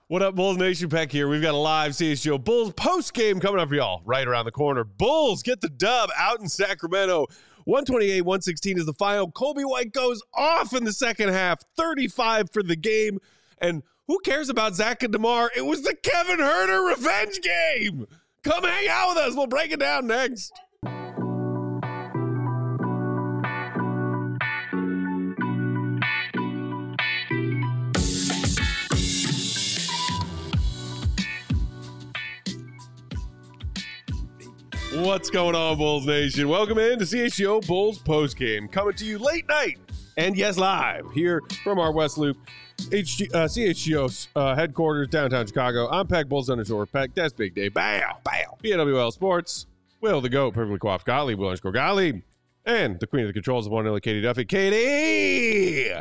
What up, Bulls Nation? Peck here. We've got a live CHGO Bulls post-game coming up for y'all right around the corner. Bulls get the dub out in Sacramento. 128-116 is the final. Coby White goes off in the second half. 35 for the game. And who cares about Zach and DeMar? It was the Kevin Huerter revenge game. Come hang out with us. We'll break it down next. What's going on, Bulls Nation? Welcome in to CHGO Bulls postgame, coming to you late night and yes, live here from our West Loop CHGO headquarters, downtown Chicago. I'm Peck Bulls underscore Peck. That's Big Day. Bow, bow. PNWL Sports. Will the GOAT, perfectly coiffed Gottlieb, Will underscore Gottlieb. And the queen of the controls, the one and only Katie Duffy. Katie!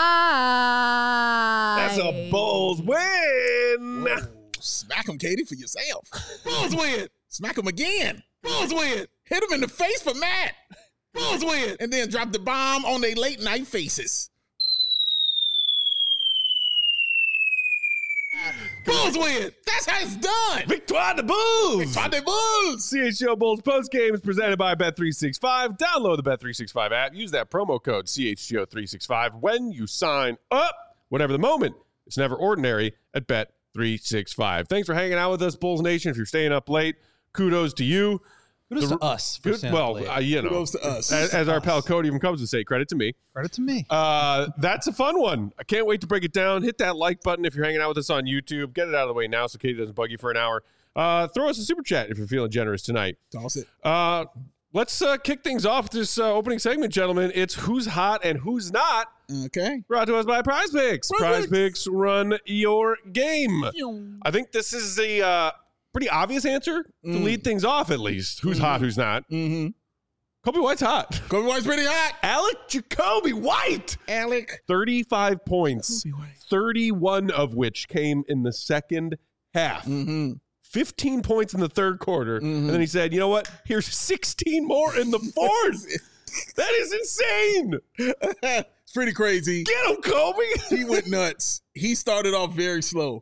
Hi! That's a Bulls win! Whoa. Smack him, Katie, for yourself. Bulls win! Smack him again! Bulls win! Hit him in the face for Matt! Bulls win! And then drop the bomb on their late night faces. Bulls win! That's how it's done! Victoire de Bulls! Victoire de Bulls! CHGO Bulls postgame is presented by Bet365. Download the Bet365 app. Use that promo code CHGO365 when you sign up. Whatever the moment, it's never ordinary at Bet365. Thanks for hanging out with us, Bulls Nation. If you're staying up late, kudos to you. Kudos to us. For you know, kudos to us. As our pal Cody even comes to say, credit to me. Credit to me. That's a fun one. I can't wait to break it down. Hit that like button if you're hanging out with us on YouTube. Get it out of the way now so Katie doesn't bug you for an hour. Throw us a super chat if you're feeling generous tonight. Toss it. Let's kick things off this opening segment, gentlemen. It's Who's Hot and Who's Not. Okay. Brought to us by Prize Picks. Prize Picks, run your game. I think this is a pretty obvious answer to lead things off, at least. Who's hot, who's not? Coby White's hot. Coby White's pretty hot. Alec Jacoby White. Alec. 35 points, 31 of which came in the second half. 15 points in the third quarter. And then he said, you know what? Here's 16 more in the fourth. That is insane. It's pretty crazy. Get him, Coby. He went nuts. He started off very slow.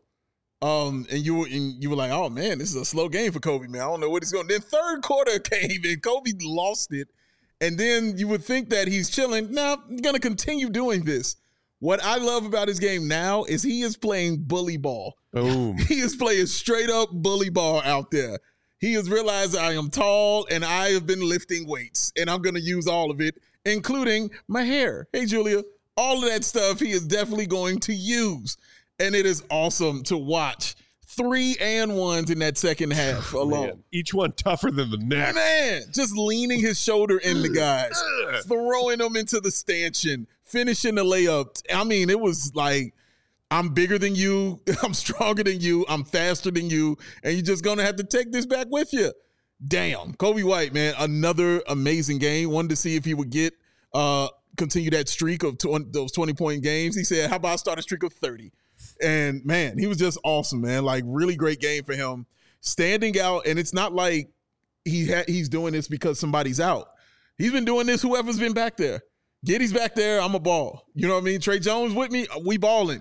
And you were like, oh man, this is a slow game for Coby, man. I don't know what he's going to do. Then third quarter came and Coby lost it. And then you would think that he's chilling. Now, I'm going to continue doing this. What I love about his game now is he is playing bully ball. Boom. He is playing straight up bully ball out there. He has realized I am tall and I have been lifting weights and I'm going to use all of it, including my hair. Hey, Julia, all of that stuff he is definitely going to use. And it is awesome to watch 3 and 1s in that second half alone. Man, each one tougher than the next. Man, just leaning his shoulder into guys, throwing them into the stanchion, finishing the layup. I mean, it was like, I'm bigger than you, I'm stronger than you, I'm faster than you, and you're just going to have to take this back with you. Damn. Coby White, man, another amazing game. Wanted to see if he would get continue that streak of those 20-point games. He said, how about I start a streak of 30? And, man, he was just awesome, man. Like, really great game for him. Standing out, and it's not like he's doing this because somebody's out. He's been doing this whoever's been back there. Giddy's back there, I'm a ball. You know what I mean? Trey Jones with me, we balling.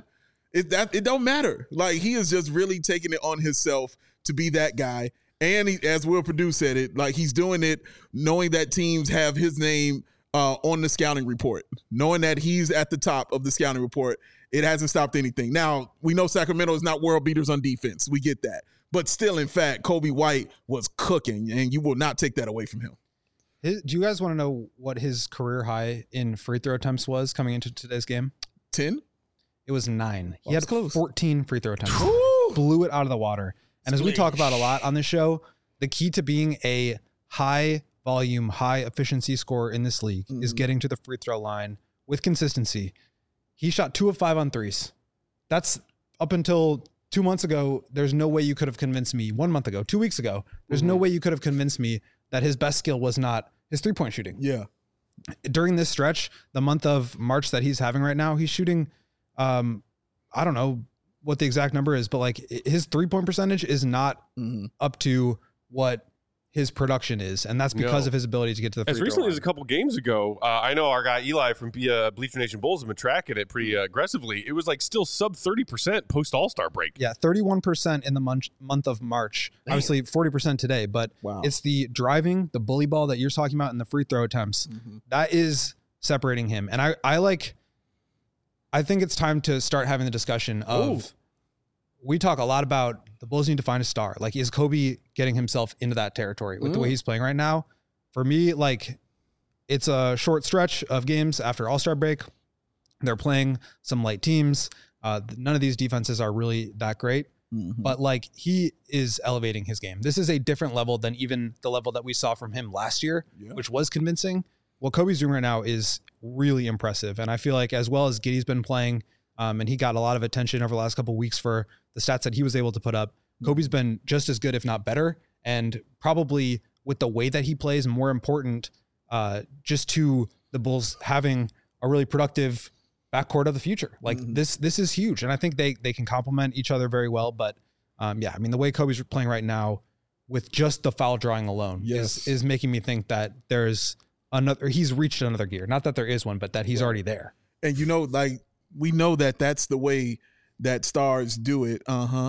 It don't matter. Like, he is just really taking it on himself to be that guy. And he, as Will Perdue said it, like, he's doing it knowing that teams have his name on the scouting report, knowing that he's at the top of the scouting report. It hasn't stopped anything. Now, we know Sacramento is not world beaters on defense. We get that. But still, in fact, Coby White was cooking, and you will not take that away from him. Do you guys want to know what his career high in free throw attempts was coming into today's game? 10? It was 9. He Well, had close. 14 free throw attempts. Woo! Blew it out of the water. And as we talk about a lot on this show, the key to being a high volume, high efficiency scorer in this league is getting to the free throw line with consistency. He shot 2 of 5 on threes. That's up until 2 months ago. There's no way you could have convinced me 1 month ago, 2 weeks ago. There's no way you could have convinced me that his best skill was not his 3-point shooting. Yeah. During this stretch, the month of March that he's having right now, he's shooting, I don't know what the exact number is, but like his 3-point percentage is not up to what his production is, and that's because of his ability to get to the free as throw recently line. as a couple games ago. I know our guy Eli from Bleacher Nation Bulls has been tracking it pretty aggressively. It was like still sub 30% post All-Star break. Yeah, 31% in the month of March. Man. Obviously 40% today, but it's the driving, the bully ball that you're talking about, and the free throw attempts. That is separating him. And I think it's time to start having the discussion of, we talk a lot about the Bulls need to find a star. Like, is Kobe getting himself into that territory with the way he's playing right now? For me, like, it's a short stretch of games after All-Star break. They're playing some light teams. None of these defenses are really that great, but like, he is elevating his game. This is a different level than even the level that we saw from him last year, which was convincing. What Kobe's doing right now is really impressive. And I feel like, as well as Giddey's been playing, and he got a lot of attention over the last couple of weeks for the stats that he was able to put up, Kobe's been just as good, if not better. And probably with the way that he plays, more important just to the Bulls having a really productive backcourt of the future. Like, this is huge. And I think they can complement each other very well. But I mean, the way Kobe's playing right now with just the foul drawing alone is making me think that he's reached another gear. Not that there is one, but that he's already there. And like, we know that that's the way that stars do it.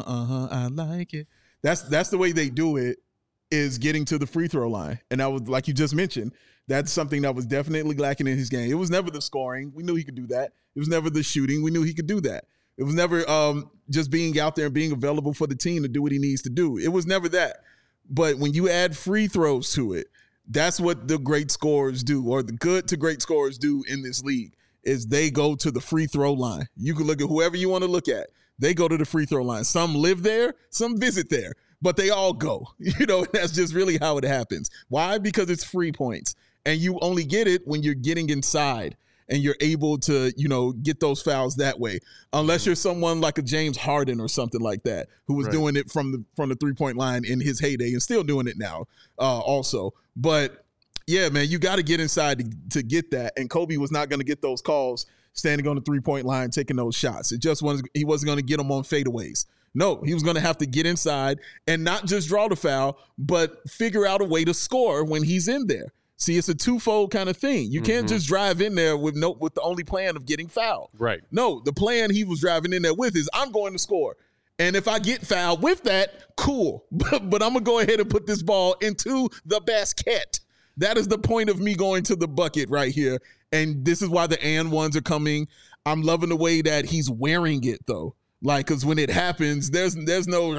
I like it. That's the way they do it, is getting to the free throw line. And that was, like you just mentioned, that's something that was definitely lacking in his game. It was never the scoring. We knew he could do that. It was never the shooting. We knew he could do that. It was never just being out there and being available for the team to do what he needs to do. It was never that. But when you add free throws to it, that's what the great scorers do, or the good to great scorers do in this league, is they go to the free throw line. You can look at whoever you want to look at. They go to the free throw line. Some live there, some visit there, but they all go. That's just really how it happens. Why? Because it's free points. And you only get it when you're getting inside and you're able to, get those fouls that way. Unless you're someone like a James Harden or something like that, who was doing it from the 3-point line in his heyday and still doing it now also. But yeah, man, you got to get inside to get that. And Kobe was not going to get those calls standing on the 3-point line, taking those shots. He wasn't going to get them on fadeaways. No, he was going to have to get inside and not just draw the foul, but figure out a way to score when he's in there. See, it's a twofold kind of thing. You can't just drive in there with the only plan of getting fouled. Right. No, the plan he was driving in there with is, I'm going to score. And if I get fouled with that, cool. But I'm going to go ahead and put this ball into the basket. That is the point of me going to the bucket right here. And this is why the and ones are coming. I'm loving the way that he's wearing it, though. Like, because when it happens, there's no, there's none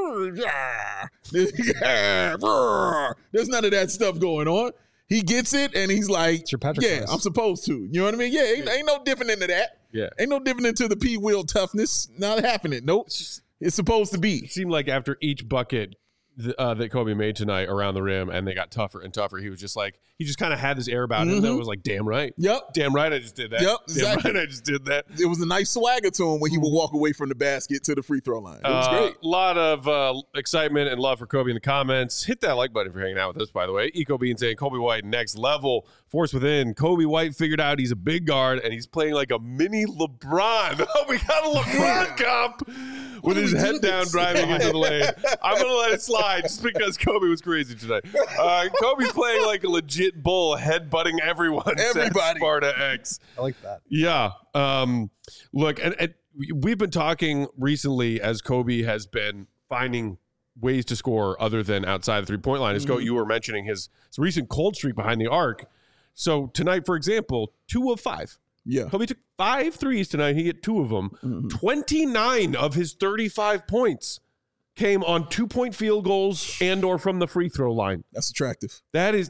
of that stuff going on. He gets it, and he's like, I'm supposed to. You know what I mean? Yeah, ain't no different into that. Yeah. Ain't no different into the P-wheel toughness. Not happening. Nope. It's supposed to be. It seemed like after each bucket that Kobe made tonight around the rim, and they got tougher and tougher, he was just like, he just kind of had this air about him that was like, damn right. Yep. Damn right I just did that. Yep, exactly. Damn right I just did that. It was a nice swagger to him when he would walk away from the basket to the free throw line. It was great. A lot of excitement and love for Kobe in the comments. Hit that like button if you're hanging out with us, by the way. Eco Bean saying Kobe White next level. Force within. Kobe White figured out he's a big guard and he's playing like a mini LeBron. Oh, we got a LeBron comp with his head down driving into the lane. I'm going to let it slide just because Kobe was crazy tonight. Kobe's playing like a legit bull, headbutting everyone. Everybody. Sparta X. I like that. Yeah. Look, and we've been talking recently as Kobe has been finding ways to score other than outside the 3-point line. You were mentioning his recent cold streak behind the arc. So tonight, for example, 2 of 5. Yeah. Kobe took 5 threes tonight. He hit 2 of them. 29 of his 35 points came on 2-point field goals and or from the free throw line. That's attractive. That is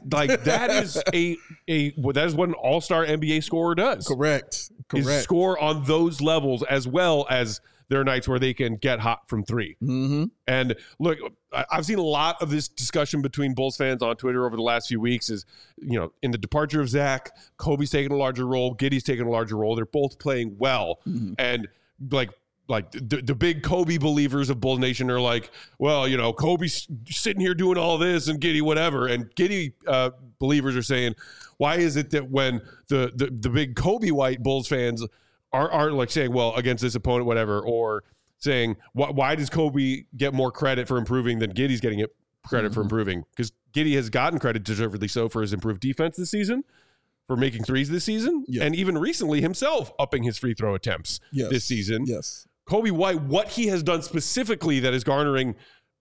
what an all-star NBA scorer does. Correct. Is score on those levels, as well as there are nights where they can get hot from 3. And look, I've seen a lot of this discussion between Bulls fans on Twitter over the last few weeks is, in the departure of Zach, Kobe's taking a larger role, Giddey's taking a larger role. They're both playing well. And like the big Kobe believers of Bulls Nation are like, well, Kobe's sitting here doing all this and Giddey whatever. And Giddey believers are saying, why is it that when the big Kobe White Bulls fans are like saying, well, against this opponent, whatever, or saying, why does Kobe get more credit for improving than Giddey's getting credit for improving? Because Giddey has gotten credit, deservedly so, for his improved defense this season, for making threes this season, and even recently himself upping his free throw attempts this season. Yes. Coby White, what he has done specifically that is garnering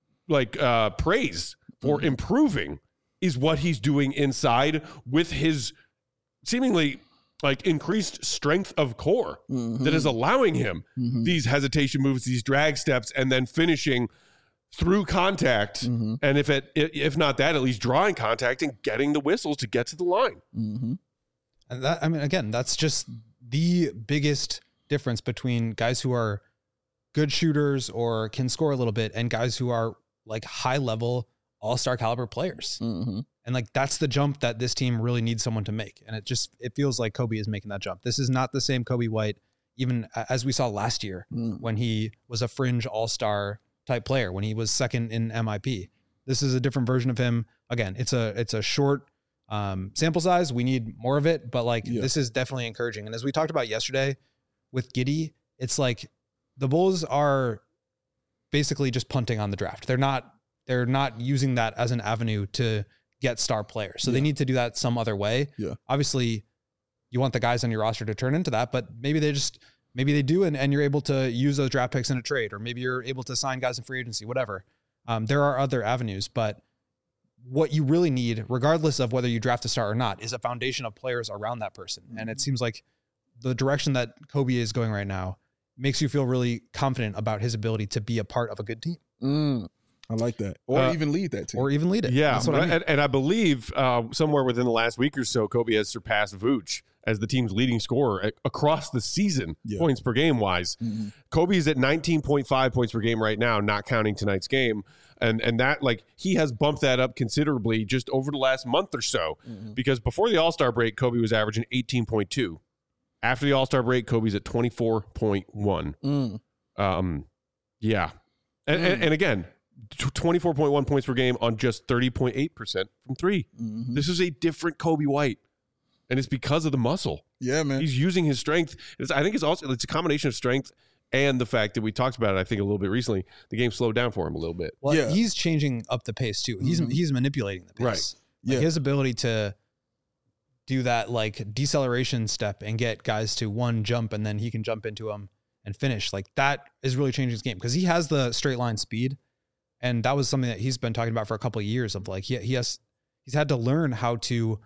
praise for improving is what he's doing inside with his seemingly increased strength of core that is allowing him these hesitation moves, these drag steps, and then finishing through contact. And if not that, at least drawing contact and getting the whistles to get to the line. And that, I mean, again, that's just the biggest difference between guys who are good shooters or can score a little bit and guys who are like high level all-star caliber players. And like, that's the jump that this team really needs someone to make. And it feels like Coby is making that jump. This is not the same Coby White, even as we saw last year when he was a fringe all-star type player, when he was second in MIP. This is a different version of him. Again, it's a short sample size. We need more of it, but this is definitely encouraging. And as we talked about yesterday with Giddey, it's like the Bulls are basically just punting on the draft. They're not using that as an avenue to get star players. So they need to do that some other way. Obviously you want the guys on your roster to turn into that, but maybe they do. And you're able to use those draft picks in a trade, or maybe you're able to sign guys in free agency, whatever. There are other avenues, but what you really need, regardless of whether you draft a star or not, is a foundation of players around that person. And it seems like the direction that Coby is going right now makes you feel really confident about his ability to be a part of a good team. I like that. Or even lead that team. Or even lead it. Yeah. That's what I mean. And I believe somewhere within the last week or so, Coby has surpassed Vooch as the team's leading scorer across the season, points per game wise. Coby is at 19.5 points per game right now, not counting tonight's game. And that, he has bumped that up considerably just over the last month or so, because before the All-Star break, Coby was averaging 18.2. After the All-Star break, Coby's at 24.1. And again, 24.1 points per game on just 30.8% from three. This is a different Coby White, and it's because of the muscle. Yeah, man. He's using his strength. I think it's a combination of strength and the fact that we talked about it, I think, a little bit recently. The game slowed down for him a little bit. Well, he's changing up the pace too. He's manipulating the pace. Right. His ability to do that deceleration step and get guys to one jump, and then he can jump into them and finish. That is really changing his game, because he has the straight line speed. And that was something that he's been talking about for a couple of years of he's had to learn how to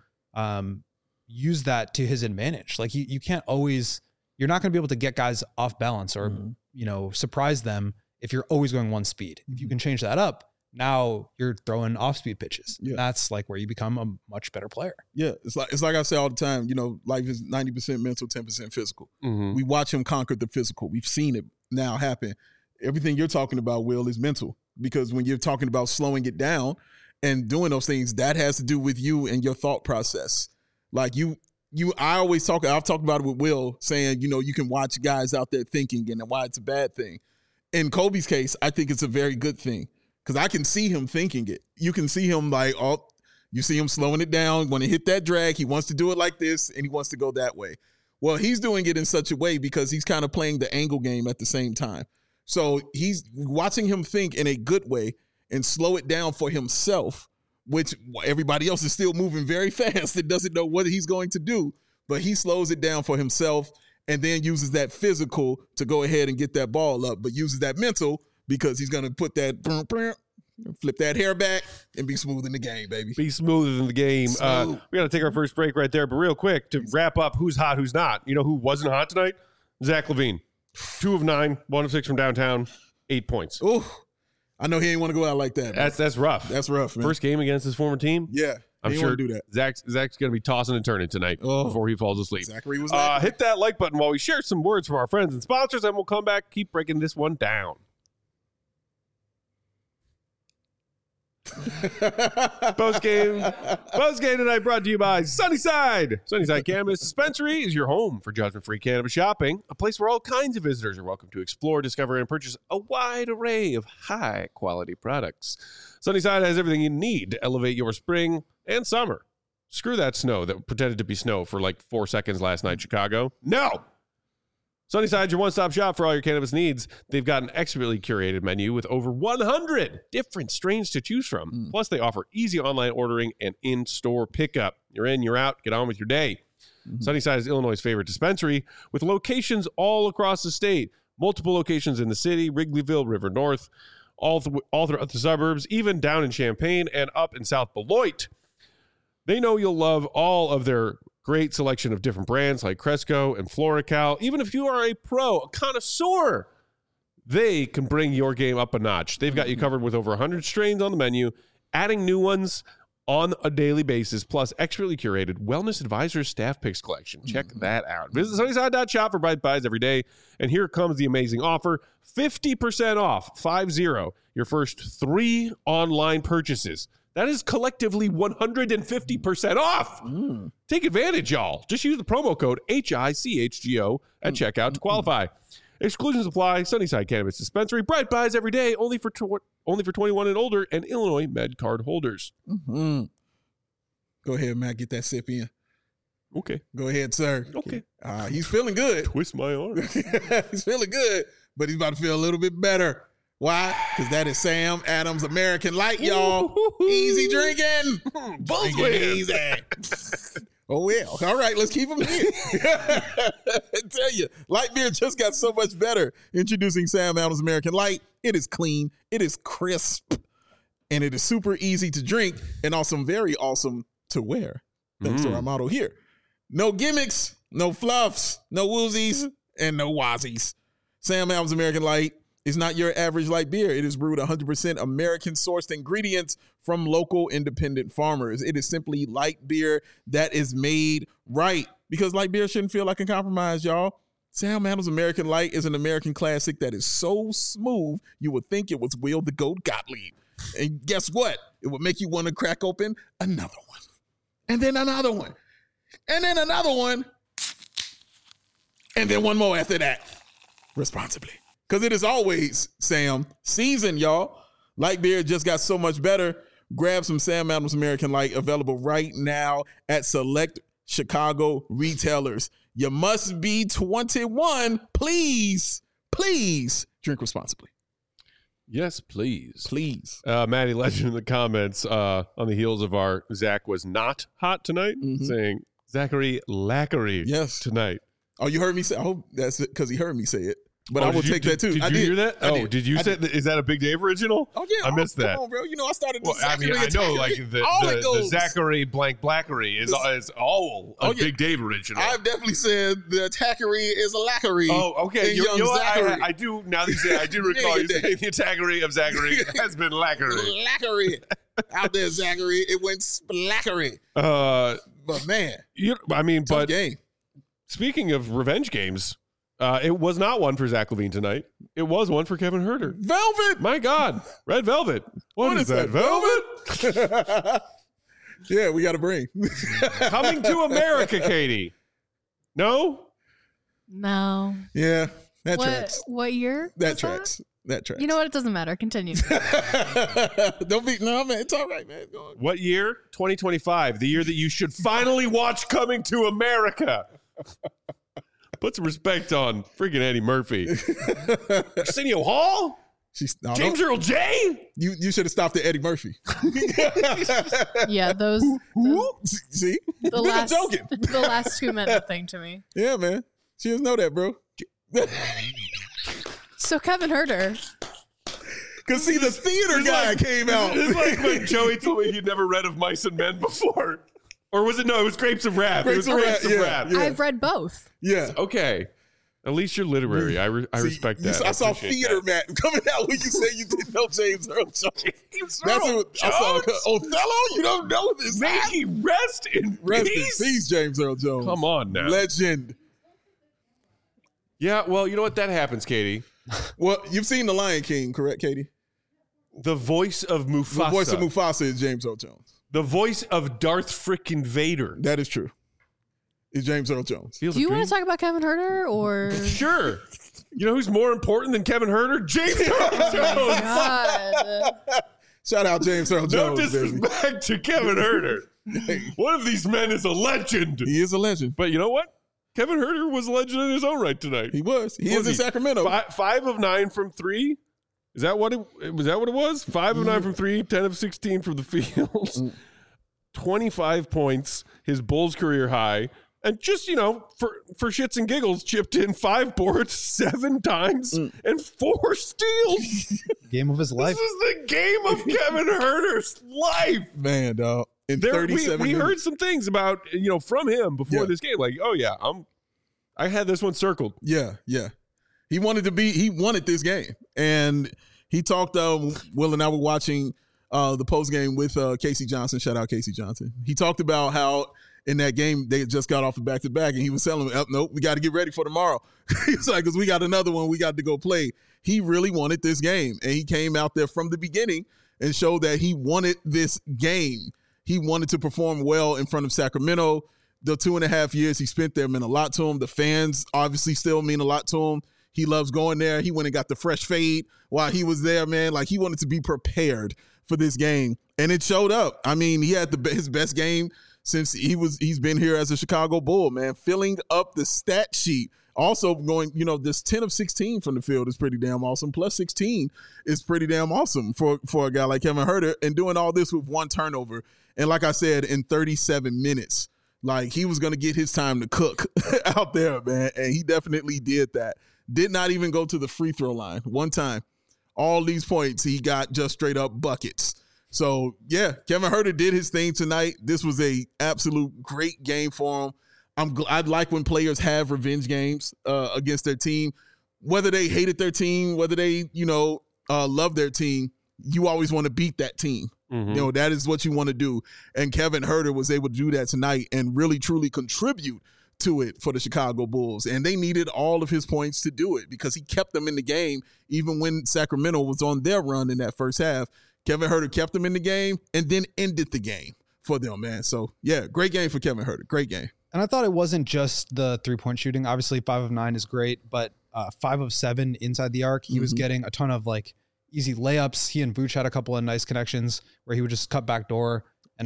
use that to his advantage. You can't always, you're not going to be able to get guys off balance or, surprise them if you're always going one speed. If you can change that up, now you're throwing off speed pitches. That's where you become a much better player. Yeah. It's like I say all the time, life is 90% mental, 10% physical. We watch him conquer the physical. We've seen it now happen. Everything you're talking about, Will, is mental. Because when you're talking about slowing it down and doing those things, that has to do with you and your thought process. I've talked about it with Will, saying, you can watch guys out there thinking and why it's a bad thing. In Coby's case, I think it's a very good thing, because I can see him thinking it. You can see him you see him slowing it down. When he hit that drag, he wants to do it like this and he wants to go that way. Well, he's doing it in such a way because he's kind of playing the angle game at the same time. So he's watching him think in a good way and slow it down for himself, which everybody else is still moving very fast and doesn't know what he's going to do. But he slows it down for himself and then uses that physical to go ahead and get that ball up, but uses that mental because he's going to put that, flip that hair back and be smooth in the game, baby. Be smoother than the game. We got to take our first break right there. But real quick, to wrap up who's hot, who's not. You know who wasn't hot tonight? Zach LaVine. 2 of 9, 1 of 6 from downtown, 8 points. Oh, I know he ain't want to go out like that. That's rough. That's rough, man. First game against his former team. Yeah, I'm sure do that. Zach's going to be tossing and turning tonight before he falls asleep. Zachary was hit that like button while we share some words from our friends and sponsors, and we'll come back, keep breaking this one down. Post-game tonight brought to you by Sunnyside. Sunnyside Cannabis Dispensary is your home for judgment-free cannabis shopping, a place where all kinds of visitors are welcome to explore, discover, and purchase a wide array of high-quality products. Sunnyside has everything you need to elevate your spring and summer. Screw that snow that pretended to be snow for 4 seconds last night in Chicago. No! Sunnyside, your one-stop shop for all your cannabis needs. They've got an expertly curated menu with over 100 different strains to choose from. Plus, they offer easy online ordering and in-store pickup. You're in, you're out. Get on with your day. Sunnyside is Illinois' favorite dispensary with locations all across the state. Multiple locations in the city, Wrigleyville, River North, all throughout the suburbs, even down in Champaign and up in South Beloit. They know you'll love all of their great selection of different brands like Cresco and Florical. Even if you are a pro, a connoisseur, they can bring your game up a notch. They've got you covered with over 100 strains on the menu, adding new ones on a daily basis, plus expertly curated Wellness Advisors staff picks collection. Check that out. Visit Sunnyside.shop for Bright Buys every day. And here comes the amazing offer, 50% off, 50, your first 3 online purchases. That is collectively 150% off. Take advantage, y'all. Just use the promo code HICHGO at checkout to qualify. Exclusions apply. Sunnyside Cannabis Dispensary. Bright Buys every day, only for 21 and older and Illinois Med Card holders. Go ahead, Matt. Get that sip in. Okay. Go ahead, sir. Okay. He's feeling good. Twist my arm. He's feeling good, but he's about to feel a little bit better. Why? Because that is Sam Adams American Light, y'all. Easy drinking. Both Drinking easy. Oh, well. All right, let's keep them here. I tell you, light beer just got so much better. Introducing Sam Adams American Light. It is clean, it is crisp, and it is super easy to drink and also very awesome to wear. Thanks to our motto here. No gimmicks, no fluffs, no woozies, and no wazzies. Sam Adams American Light is not your average light beer. It is brewed 100% American-sourced ingredients from local independent farmers. It is simply light beer that is made right, because light beer shouldn't feel like a compromise, y'all. Sam Adams American Light is an American classic that is so smooth you would think it was Will the Goat Gottlieb. And guess what? It would make you want to crack open another one. And then another one. And then another one. And then one more after that. Responsibly. Because it is always, Sam, season, y'all. Light beer just got so much better. Grab some Sam Adams American Light, available right now at select Chicago retailers. You must be 21. Please drink responsibly. Yes, please. Please. Maddie Legend in the comments on the heels of our Zach was not hot tonight, saying Zachary Lackery tonight. Oh, you heard me say, I hope that's it because he heard me say it. But I will take that too. Did you hear that? Did you say that? Is that a Big Dave original? Oh, yeah. I missed that. Come on, bro. You know, I started Well, I mean, I know like the Zachary blank Blackery is all a Big Dave original. I've definitely said the attackery is a lackery. Oh, okay. You know Zachary. I do, now that you say, I do recall you saying the attackery of Zachary has been Lackery. Lackery. Out there, Zachary. It went splackery. But man. Tough game. Speaking of revenge games, it was not one for Zach Levine tonight. It was one for Kevin Herter. Velvet. My God. Red Velvet. What is that? Velvet? Yeah, we got a brain. Coming to America, Katie. No? No. Yeah, that tracks. What year? That tracks. That tracks. You know what? It doesn't matter. Continue. Don't be, no, man. It's all right, man. Go on. What year? 2025. The year that you should finally watch Coming to America. Put some respect on freaking Eddie Murphy. Arsenio Hall? James Earl J? You should have stopped at Eddie Murphy. Yeah, those See? the last 2 meant nothing to me. Yeah, man. She doesn't know that, bro. So Kevin Herter. Because see, the theater guy came out. It's like when Joey told me he'd never read of Mice and Men before. Or was it? No, it was Grapes of Wrath. It was Grapes of Wrath. Yeah. I've read both. Yeah. Okay. At least you're literary. I respect that. I saw theater, Matt, coming out when you say you didn't know James Earl Jones. I saw Othello. You don't know this. May he rest in peace, James Earl Jones. Come on now. Legend. Yeah, well, you know what? That happens, Katie. Well, you've seen The Lion King, correct, Katie? The voice of Mufasa. The voice of Mufasa is James Earl Jones. The voice of Darth frickin' Vader. That is true. It's James Earl Jones. Do you want to talk about Kevin Herter or? Sure. You know who's more important than Kevin Herter? James Earl Jones. God. Shout out James Earl Jones. No disrespect to Kevin Herter. One of these men is a legend. He is a legend. But you know what? Kevin Huerter was a legend in his own right tonight. He was. He What is was in Sacramento. 5 of 9 from 3. Is that what it was? That what it was? 5 of 9 from 3, 10 of 16 from the field, 25 points, his Bulls career high, and just for shits and giggles, chipped in 5 boards 7 times and 4 steals. Game of his life. This is the game of Kevin Herter's life. Man, dog. In 37 we minutes. heard some things about from him before Yeah. this game, like, oh yeah, I had this one circled. Yeah. He wanted this game. And he talked, Will and I were watching the post game with Casey Johnson. Shout out Casey Johnson. He talked about how in that game they just got off the back-to-back, and he was telling me, nope, we got to get ready for tomorrow. He's like, because we got another one we got to go play. He really wanted this game, and he came out there from the beginning and showed that he wanted this game. He wanted to perform well in front of Sacramento. The 2.5 years he spent there meant a lot to him. The fans obviously still mean a lot to him. He loves going there. He went and got the fresh fade while he was there, man. Like, he wanted to be prepared for this game, and it showed up. I mean, he had his best game since he's been here as a Chicago Bull, man, filling up the stat sheet. Also going, this 10 of 16 from the field is pretty damn awesome. Plus 16 is pretty damn awesome for a guy like Kevin Huerter, and doing all this with 1 turnover. And like I said, in 37 minutes, like, he was going to get his time to cook out there, man. And he definitely did that. Did not even go to the free throw line one time. All these points, he got just straight up buckets. So, yeah, Kevin Huerter did his thing tonight. This was a absolute great game for him. I'd like when players have revenge games against their team, whether they hated their team, whether they, love their team. You always want to beat that team. Mm-hmm. That is what you want to do. And Kevin Huerter was able to do that tonight and really, truly contribute to it for the Chicago Bulls. And they needed all of his points to do it because he kept them in the game even when Sacramento was on their run in that first half. Kevin Huerter kept them in the game and then ended the game for them, man. So, yeah, great game for Kevin Huerter. Great game. And I thought it wasn't just the 3-point shooting. Obviously, 5 of 9 is great, but 5 of 7 inside the arc, he was getting a ton of easy layups. He and Vooch had a couple of nice connections where he would just cut back door and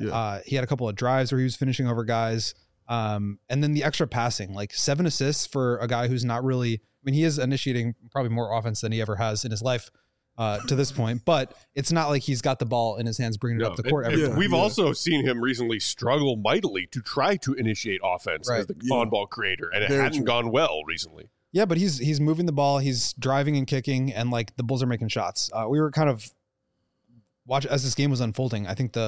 he had a couple of drives where he was finishing over guys. And then the extra passing, 7 assists for a guy who's not really, he is initiating probably more offense than he ever has in his life to this point, but it's not like he's got the ball in his hands bringing it up the court every time. We've also seen him recently struggle mightily to try to initiate offense as the on-ball creator, and it hadn't gone well recently. Yeah, but he's moving the ball, he's driving and kicking, and the Bulls are making shots. We were kind of watching as this game was unfolding. I think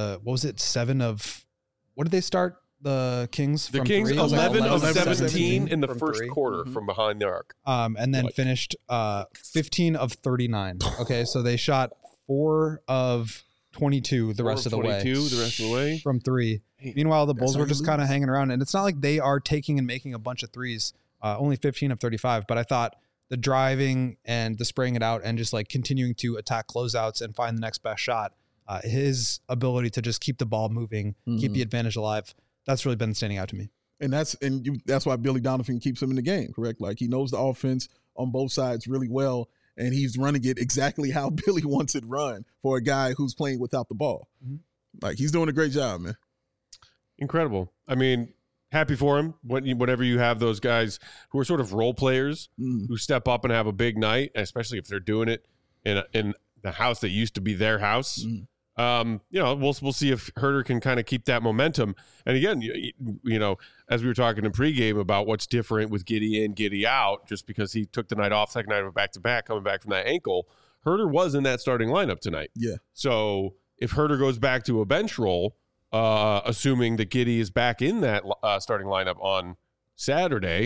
7 of, what did they start? The Kings? The from Kings 3? 11 of 17 17 in the from first 3. quarter from behind the arc. And then finished 15 of 39. Okay, so they shot 4 of 22 the rest of the way from 3. Meanwhile, the Bulls were just kind of hanging around, and it's not like they are taking and making a bunch of threes. Only 15 of 35, but I thought the driving and the spraying it out and just continuing to attack closeouts and find the next best shot, his ability to just keep the ball moving, keep the advantage alive, that's really been standing out to me. And that's why Billy Donovan keeps him in the game, correct? He knows the offense on both sides really well, and he's running it exactly how Billy wants it run for a guy who's playing without the ball. He's doing a great job, man. Incredible. Happy for him. Whenever you have those guys who are sort of role players who step up and have a big night, especially if they're doing it in the house that used to be their house. We'll see if Huerter can kind of keep that momentum. And again, as we were talking in pregame about what's different with Giddey in, Giddey out, just because he took the night off, second night of a back-to-back, coming back from that ankle, Huerter was in that starting lineup tonight. Yeah. So if Huerter goes back to a bench role, assuming that Giddey is back in that starting lineup on Saturday,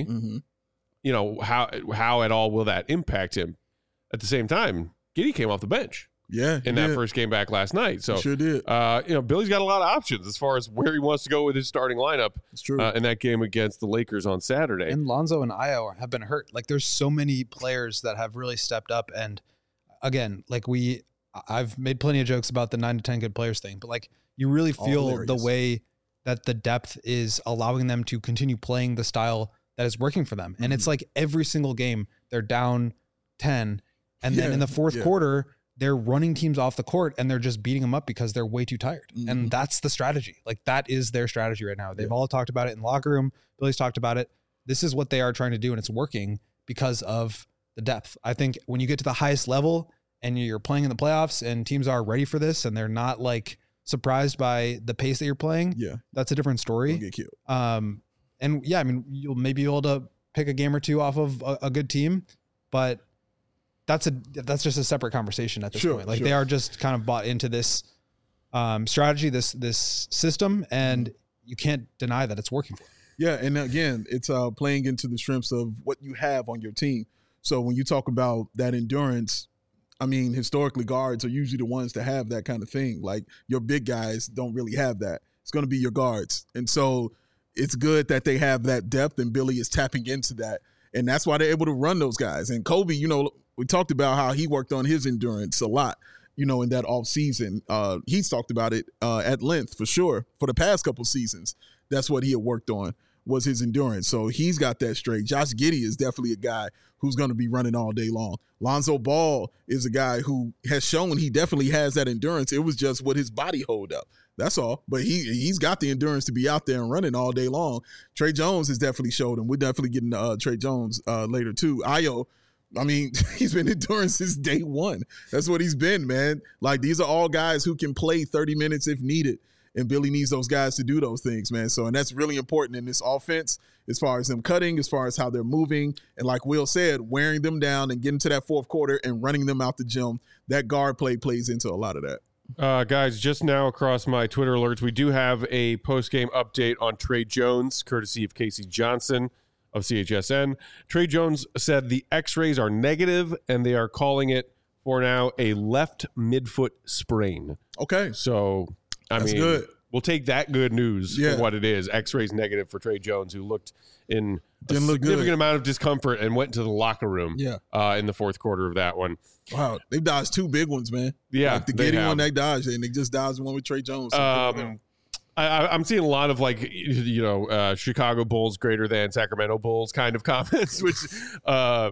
how at all will that impact him? At the same time, Giddey came off the bench. Yeah, in that first game back last night. So sure did. Billy's got a lot of options as far as where he wants to go with his starting lineup. It's true. In that game against the Lakers on Saturday. And Lonzo and Ayo have been hurt. There's so many players that have really stepped up. And again, I've made plenty of jokes about the 9 to 10 good players thing, but you really feel the way that the depth is allowing them to continue playing the style that is working for them. And it's every single game they're down 10, and then in the fourth quarter, they're running teams off the court and they're just beating them up because they're way too tired. And that's the strategy. That is their strategy right now. They've all talked about it in the locker room. Billy's talked about it. this is what they are trying to do, and it's working because of the depth. I think when you get to the highest level and you're playing in the playoffs and teams are ready for this and they're not like surprised by the pace that you're playing, that's a different story. Don't get killed. And yeah, I mean, you'll maybe be able to pick a game or two off of a good team, but that's just a separate conversation at this point. Like they are just kind of bought into this strategy, this system, and you can't deny that it's working for them. Yeah, and again, it's playing into the strengths of what you have on your team. So when you talk about that endurance, I mean, historically, guards are usually the ones to have that kind of thing. Like your big guys don't really have that. It's going to be your guards. And so it's good that they have that depth, and Billy is tapping into that. And that's why they're able to run those guys. And Kobe, you know, we talked about how he worked on his endurance a lot, you know, in that off season. He's talked about it at length for sure for the past couple seasons. That's what he had worked on, was his endurance. So he's got that straight. Josh Giddey is definitely a guy who's going to be running all day long. Lonzo Ball is a guy who has shown he definitely has that endurance. It was just what his body hold up. That's all. But he's got the endurance to be out there and running all day long. Trey Jones has definitely showed him. We're definitely getting Trey Jones later too. Ayo, I mean, he's been enduring since day one. That's what he's been, man. Like, these are all guys who can play 30 minutes if needed. And Billy needs those guys to do those things, man. So, and that's really important in this offense as far as them cutting, as far as how they're moving. And like Will said, wearing them down and getting to that fourth quarter and running them out the gym. That guard play plays into a lot of that. Guys, just now across my Twitter alerts, we do have a post-game update on Trey Jones, courtesy of Casey Johnson of CHSN. Trey Jones said the x-rays are negative, and they are calling it, for now, a left midfoot sprain. Okay. So, That's good. We'll take that good news for what it is. X-rays negative for Trey Jones, who looked in a significant amount of discomfort and went to the locker room in the fourth quarter of that one. Wow. They dodged two big ones, man. Yeah. Like the Giddey one they dodged, and they just dodged one with Trey Jones. I'm seeing a lot of, like, you know, Chicago Bulls greater than Sacramento Bulls kind of comments, which the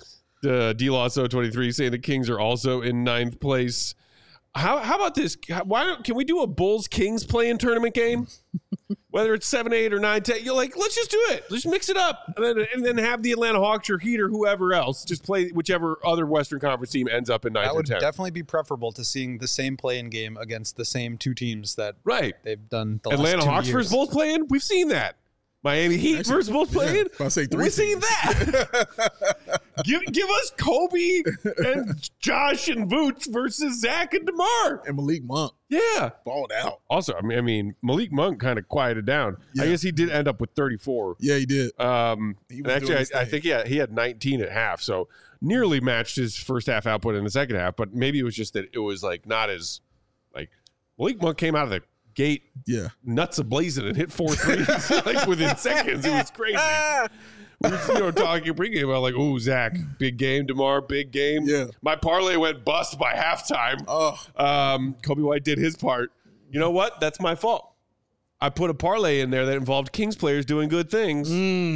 D-Law 23 saying the Kings are also in ninth place. How about this? Can we do a Bulls Kings play-in tournament game? Whether it's 7-8 or 9-10, you're like, let's just do it. Let's mix it up, and then have the Atlanta Hawks or Heat or whoever else just play whichever other Western Conference team ends up in 9th or 10th. That would definitely be preferable to seeing the same play-in game against the same two teams that they've done the Atlanta last 2 Hawks years. versus Bulls play-in. We've seen that. Miami Heat versus Bulls play-in. We've seen that. Give us Kobe and Josh and Vooch versus Zach and DeMar. And Malik Monk. Yeah. Balled out. Also, I mean, Malik Monk kind of quieted down. Yeah. I guess he did end up with 34. Yeah, he did. And actually, I think he had 19 at half, so nearly matched his first half output in the second half, but maybe it was just that it was like not as, like, Malik Monk came out of the gate nuts a-blazing and hit 4 threes like within seconds. It was crazy. We were talking pregame about, like, oh, Zach, big game. DeMar, big game. Yeah. My parlay went bust by halftime. Kobe White did his part. You know what? That's my fault. I put a parlay in there that involved Kings players doing good things.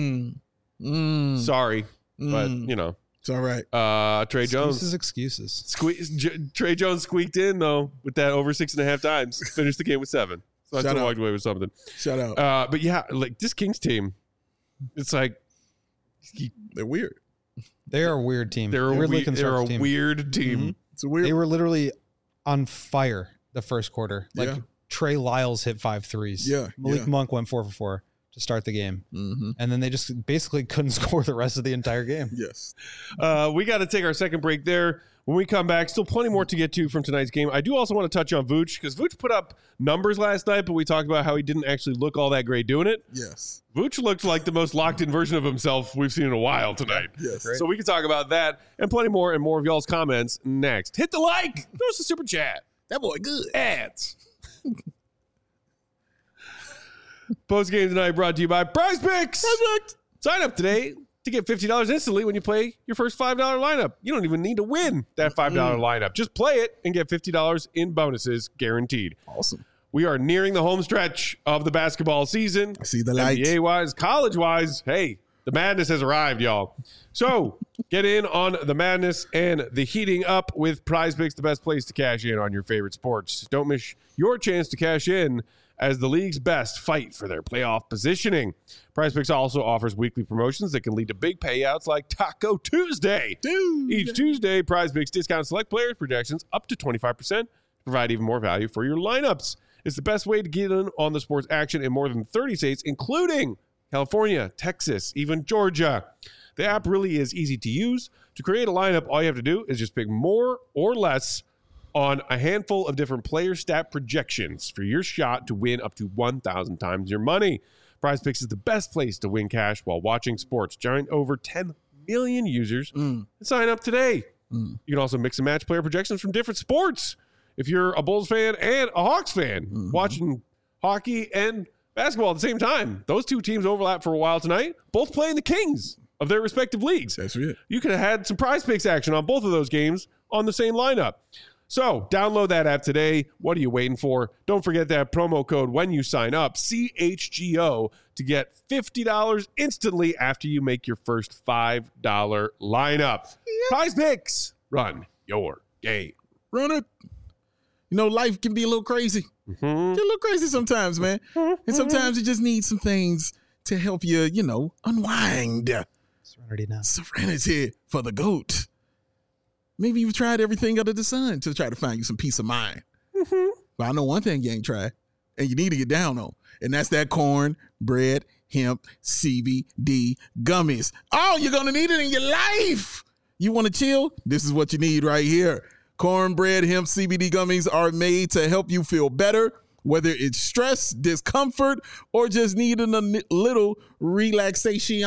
Sorry, but, you know. It's all right. Trey Jones. Excuses. Trey Jones squeaked in, though, with that over 6.5 times. Finished the game with 7. So I still walked away with something. Shout out. But yeah, like, this Kings team, it's like, they're weird. They are a weird team. They're a weird team. Mm-hmm. It's a weird. They were literally on fire the first quarter. Like Trey Lyles hit 5 threes. Yeah. Malik Monk went 4 for 4 to start the game. Mm-hmm. And then they just basically couldn't score the rest of the entire game. Yes. We got to take our second break there. When we come back, still plenty more to get to from tonight's game. I do also want to touch on Vooch, because Vooch put up numbers last night, but we talked about how he didn't actually look all that great doing it. Yes. Vooch looked like the most locked-in version of himself we've seen in a while tonight. Yes. So we can talk about that and plenty more and more of y'all's comments next. Hit the like. Throw us a super chat. That boy good. Ads. Post game tonight brought to you by Prize Picks. Sign up today to get $50 instantly when you play your first $5 lineup. You don't even need to win that $5 lineup. Just play it and get $50 in bonuses guaranteed. Awesome. We are nearing the home stretch of the basketball season. I see the lights. NBA-wise, college-wise, hey, the madness has arrived, y'all. So get in on the madness and the heating up with Prize Picks, the best place to cash in on your favorite sports. Don't miss your chance to cash in as the league's best fight for their playoff positioning. PrizePicks also offers weekly promotions that can lead to big payouts like Taco Tuesday. Each Tuesday, PrizePicks discounts select players' projections up to 25% to provide even more value for your lineups. It's the best way to get in on the sports action in more than 30 states, including California, Texas, even Georgia. The app really is easy to use. To create a lineup, all you have to do is just pick more or less on a handful of different player stat projections for your shot to win up to 1,000 times your money. PrizePicks is the best place to win cash while watching sports. Join over 10 million users and sign up today. You can also mix and match player projections from different sports. If you're a Bulls fan and a Hawks fan, watching hockey and basketball at the same time, those two teams overlap for a while tonight, both playing the Kings of their respective leagues. That's it. You could have had some PrizePicks action on both of those games on the same lineup. So download that app today. What are you waiting for? Don't forget that promo code when you sign up, CHGO, to get $50 instantly after you make your first $5 lineup. PrizePicks, run your game. Run it. You know, life can be a little crazy. Get a little crazy sometimes, man. And sometimes you just need some things to help you, you know, unwind. Serenity now. Serenity for the GOAT. Maybe you've tried everything under the sun to try to find you some peace of mind. But I know one thing you ain't tried, and you need to get down on, and that's that corn, bread, hemp, CBD gummies. Oh, you're going to need it in your life. You want to chill? This is what you need right here. Cornbread hemp CBD gummies are made to help you feel better, whether it's stress, discomfort, or just needing a little relaxation.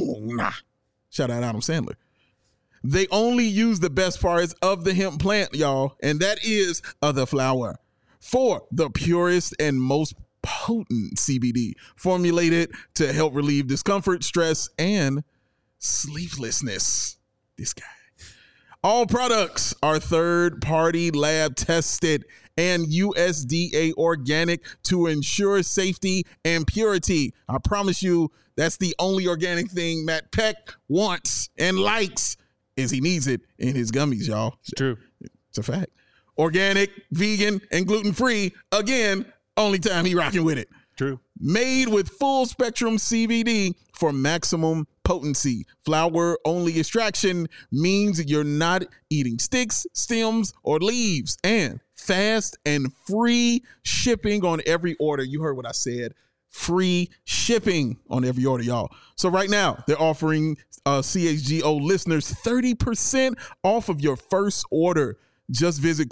Shout out Adam Sandler. They only use the best parts of the hemp plant, y'all, and that is the flower. For the purest and most potent CBD, formulated to help relieve discomfort, stress, and sleeplessness. This guy. All products are third-party lab tested and USDA organic to ensure safety and purity. I promise you, that's the only organic thing Matt Peck wants and likes, is he needs it in his gummies, y'all. It's true. It's a fact. Organic, vegan, and gluten-free. Again, only time he rocking with it. True. Made with full spectrum CBD for maximum potency. Flower only extraction means you're not eating sticks, stems, or leaves. And fast and free shipping on every order. You heard what I said. Free shipping on every order, y'all. So right now, they're offering CHGO listeners 30% off of your first order. Just visit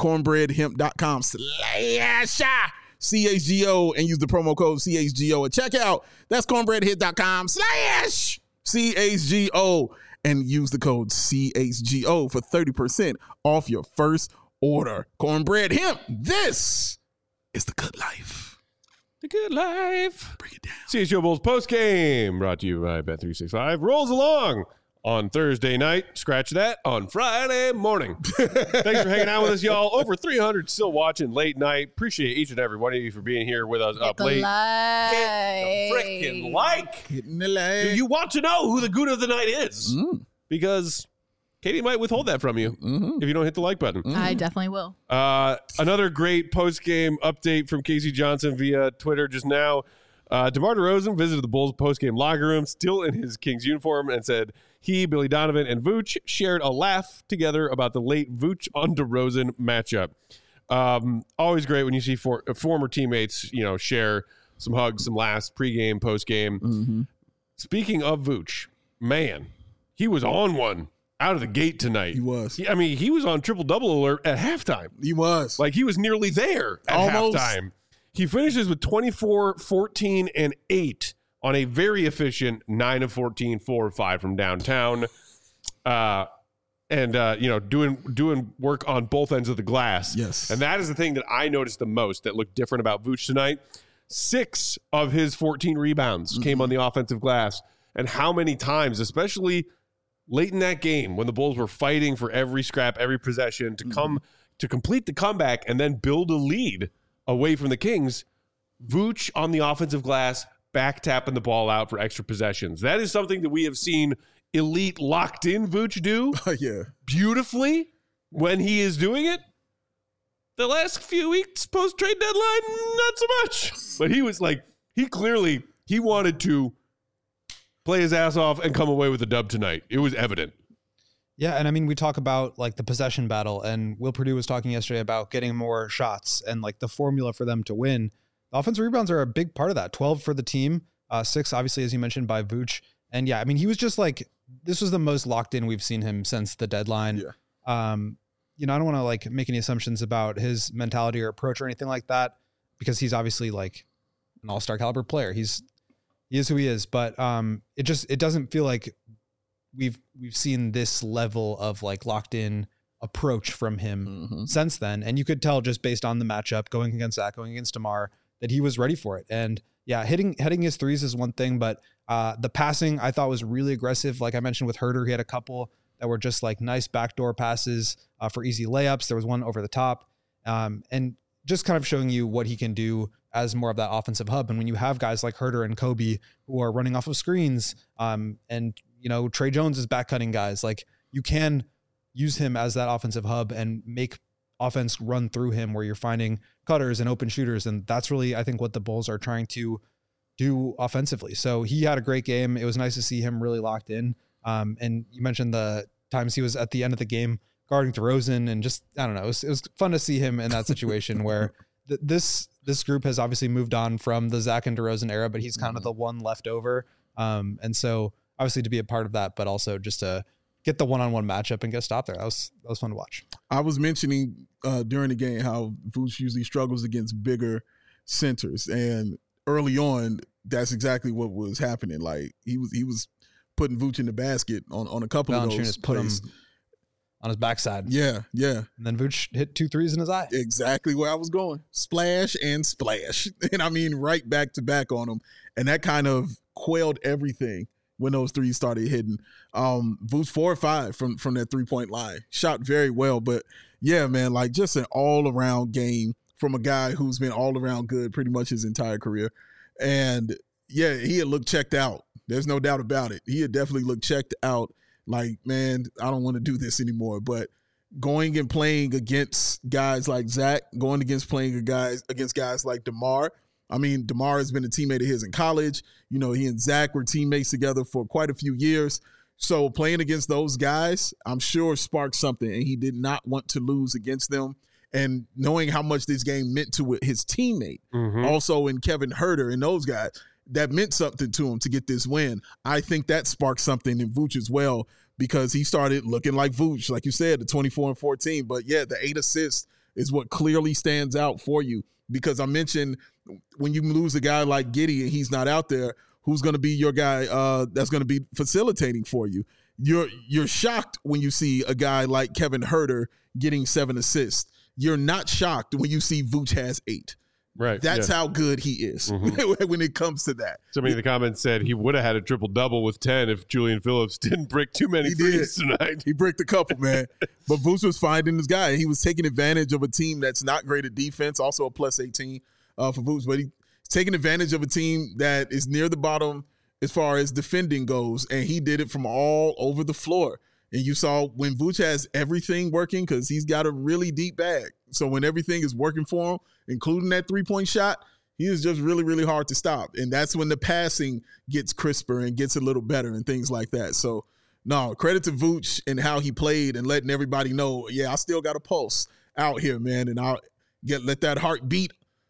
cornbreadhemp.com/CHGO and use the promo code CHGO at checkout. That's cornbreadhemp.com/CHGO and use the code CHGO for 30% off your first order. Cornbread Hemp, this is the good life. The good life. Break it down. CHGO Bulls postgame brought to you by Bet365. Rolls along on Thursday night. Scratch that on Friday morning. Thanks for hanging out with us, y'all. Over 300 still watching late night. Appreciate each and every one of you for being here with us up late. Hit the freaking like. Hitting the leg. Do you want to know who the good of the night is? Because Katie might withhold that from you if you don't hit the like button. I definitely will. Another great post-game update from Casey Johnson via Twitter just now. DeMar DeRozan visited the Bulls post-game locker room, still in his Kings uniform, and said he, Billy Donovan, and Vooch shared a laugh together about the late Vooch on DeRozan matchup. Always great when you see former teammates, share some hugs, some laughs, pregame, postgame. Speaking of Vooch, man, he was on one out of the gate tonight. He was. He was on triple-double alert at halftime. He was. Like, he was nearly there at Almost. halftime. He finishes with 24, 14, and 8 on a very efficient 9 of 14, 4 of 5 from downtown. Doing work on both ends of the glass. Yes. And that is the thing that I noticed the most that looked different about Vooch tonight. 6 of his 14 rebounds came on the offensive glass. And how many times, especially late in that game when the Bulls were fighting for every scrap, every possession to complete the comeback and then build a lead away from the Kings, Vooch on the offensive glass, back tapping the ball out for extra possessions. That is something that we have seen elite locked in Vooch do Yeah. beautifully when he is doing it. The last few weeks post-trade deadline, not so much. But he was like, he wanted to play his ass off and come away with a dub tonight. It was evident. Yeah, and I mean, we talk about like the possession battle, and Will Purdue was talking yesterday about getting more shots and like the formula for them to win. The offensive rebounds are a big part of that. 12 for the team, 6 obviously, as you mentioned, by Vooch. And yeah, I mean, he was just like, this was the most locked in we've seen him since the deadline. Yeah. You know, I don't want to like make any assumptions about his mentality or approach or anything like that, because he's obviously like an all-star caliber player. He is who he is, but it doesn't feel like we've seen this level of like locked in approach from him since then. And you could tell just based on the matchup going against Zach, going against DeMar, that he was ready for it. And yeah, hitting his threes is one thing, but the passing I thought was really aggressive. Like I mentioned with Herter, he had a couple that were just like nice backdoor passes for easy layups. There was one over the top, and just kind of showing you what he can do as more of that offensive hub. And when you have guys like Herter and Kobe who are running off of screens, and you know, Trey Jones is back cutting guys, like you can use him as that offensive hub and make offense run through him where you're finding cutters and open shooters. And that's really, I think, what the Bulls are trying to do offensively. So he had a great game. It was nice to see him really locked in. And you mentioned the times he was at the end of the game guarding DeRozan, and just, I don't know, it was fun to see him in that situation where this group has obviously moved on from the Zach and DeRozan era, but he's kind of the one left over. And so obviously to be a part of that, but also just to get the one-on-one matchup and get a stop there. That was fun to watch. I was mentioning during the game how Vooch usually struggles against bigger centers, and early on, that's exactly what was happening. Like he was putting Vooch in the basket on a couple of those put him plays. On his backside. Yeah. And then Vooch hit 2 threes in his eye. Exactly where I was going. Splash and splash. And I mean, right back to back on him. And that kind of quelled everything when those threes started hitting. Vooch 4 or 5 from that 3-point line. Shot very well. But yeah, man, like just an all-around game from a guy who's been all-around good pretty much his entire career. And yeah, he had looked checked out. There's no doubt about it. He had definitely looked checked out. Like, man, I don't want to do this anymore. But going and playing against guys like Zach, going against guys like DeMar. I mean, DeMar has been a teammate of his in college. You know, he and Zach were teammates together for quite a few years. So playing against those guys, I'm sure sparked something, and he did not want to lose against them. And knowing how much this game meant to his teammate, also in Kevin Herter and those guys, that meant something to him to get this win. I think that sparked something in Vooch as well, because he started looking like Vooch, like you said, the 24 and 14. But yeah, the 8 assists is what clearly stands out for you, because I mentioned when you lose a guy like Giddey and he's not out there, who's going to be your guy that's going to be facilitating for you? You're shocked when you see a guy like Kevin Herter getting 7 assists. You're not shocked when you see Vooch has 8. Right. That's how good he is when it comes to that. Somebody in the comments said he would have had a triple-double with 10 if Julian Phillips didn't brick too many threes tonight. He bricked a couple, man. But Vooch was finding his guy. He was taking advantage of a team that's not great at defense, also a plus 18 for Vooch. But he's taking advantage of a team that is near the bottom as far as defending goes, and he did it from all over the floor. And you saw when Vooch has everything working, because he's got a really deep bag. So when everything is working for him, including that 3-point shot, he is just really, really hard to stop. And that's when the passing gets crisper and gets a little better and things like that. So, no, credit to Vooch and how he played and letting everybody know, yeah, I still got a pulse out here, man. And I'll let that heart beat.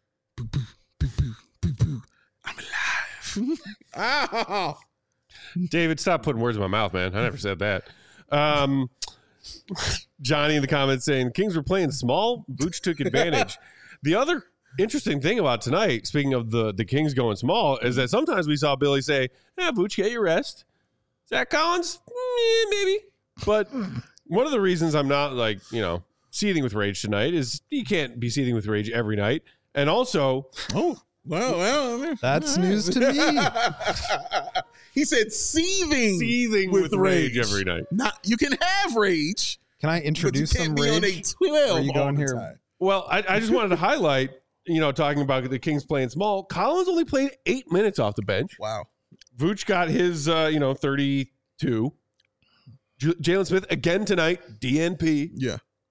I'm alive. Oh. David, stop putting words in my mouth, man. I never said that. Johnny in the comments saying Kings were playing small. Vooch took advantage. The other interesting thing about tonight, speaking of the Kings going small, is that sometimes we saw Billy say, Vooch, get your rest. Zach Collins, maybe. But one of the reasons I'm not seething with rage tonight is you can't be seething with rage every night. And also, well, that's news to me. He said seething with rage every night. You can have rage. Can I introduce some rage? On a 12 are you going here? Time. Well, I just wanted to highlight, talking about the Kings playing small. Collins only played 8 minutes off the bench. Wow. Vooch got his, 32. Jalen Smith again tonight, DNP. Yeah.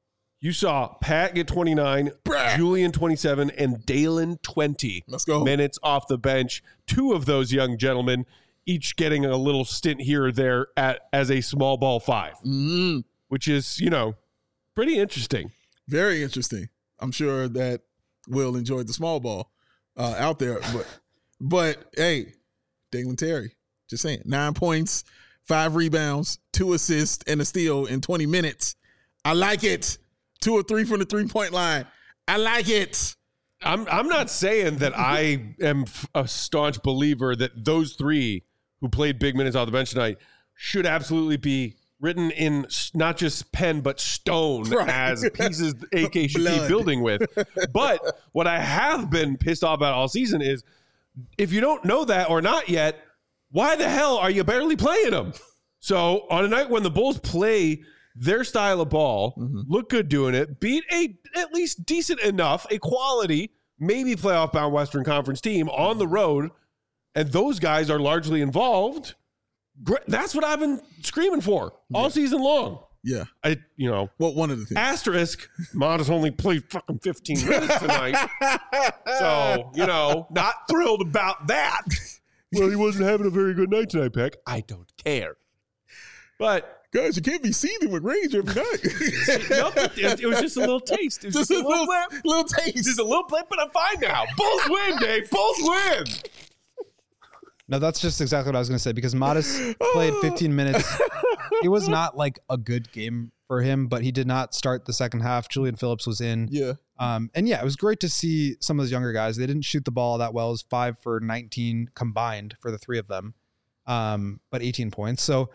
You saw Pat get 29, Julian 27, and Dalen 20 Let's go. minutes off the bench. Two of those young gentlemen, each getting a little stint here or there as a small ball 5, which is, pretty interesting. Very interesting. I'm sure that Will enjoyed the small ball out there. But hey, Dalen Terry, just saying, 9 points, 5 rebounds, 2 assists, and a steal in 20 minutes. I like it. 2 or 3 from the 3-point line. I like it. I'm not saying that I am a staunch believer that those 3 who played big minutes off the bench tonight should absolutely be written in not just pen but stone as pieces AK should keep building with. But what I have been pissed off about all season is if you don't know that or not yet, why the hell are you barely playing them? So on a night when the Bulls play their style of ball, look good doing it, beat a at least decent enough, a quality, maybe playoff bound Western Conference team on the road, and those guys are largely involved. That's what I've been screaming for all season long. Yeah. Well, one of the things. Asterisk, Modest only played fucking 15 minutes tonight. So, not thrilled about that. Well, he wasn't having a very good night tonight, Peck. I don't care. But guys, you can't be seething with rage every night. It was just a little taste. It was just a little taste. Just a little blip, but I'm fine now. Bulls win, Dave. Bulls win. No, that's just exactly what I was going to say because Modest played 15 minutes. It was not like a good game for him, but he did not start the second half. Julian Phillips was in. Yeah. It was great to see some of those younger guys. They didn't shoot the ball that well. It was 5 for 19 combined for the 3 of them, but 18 points. So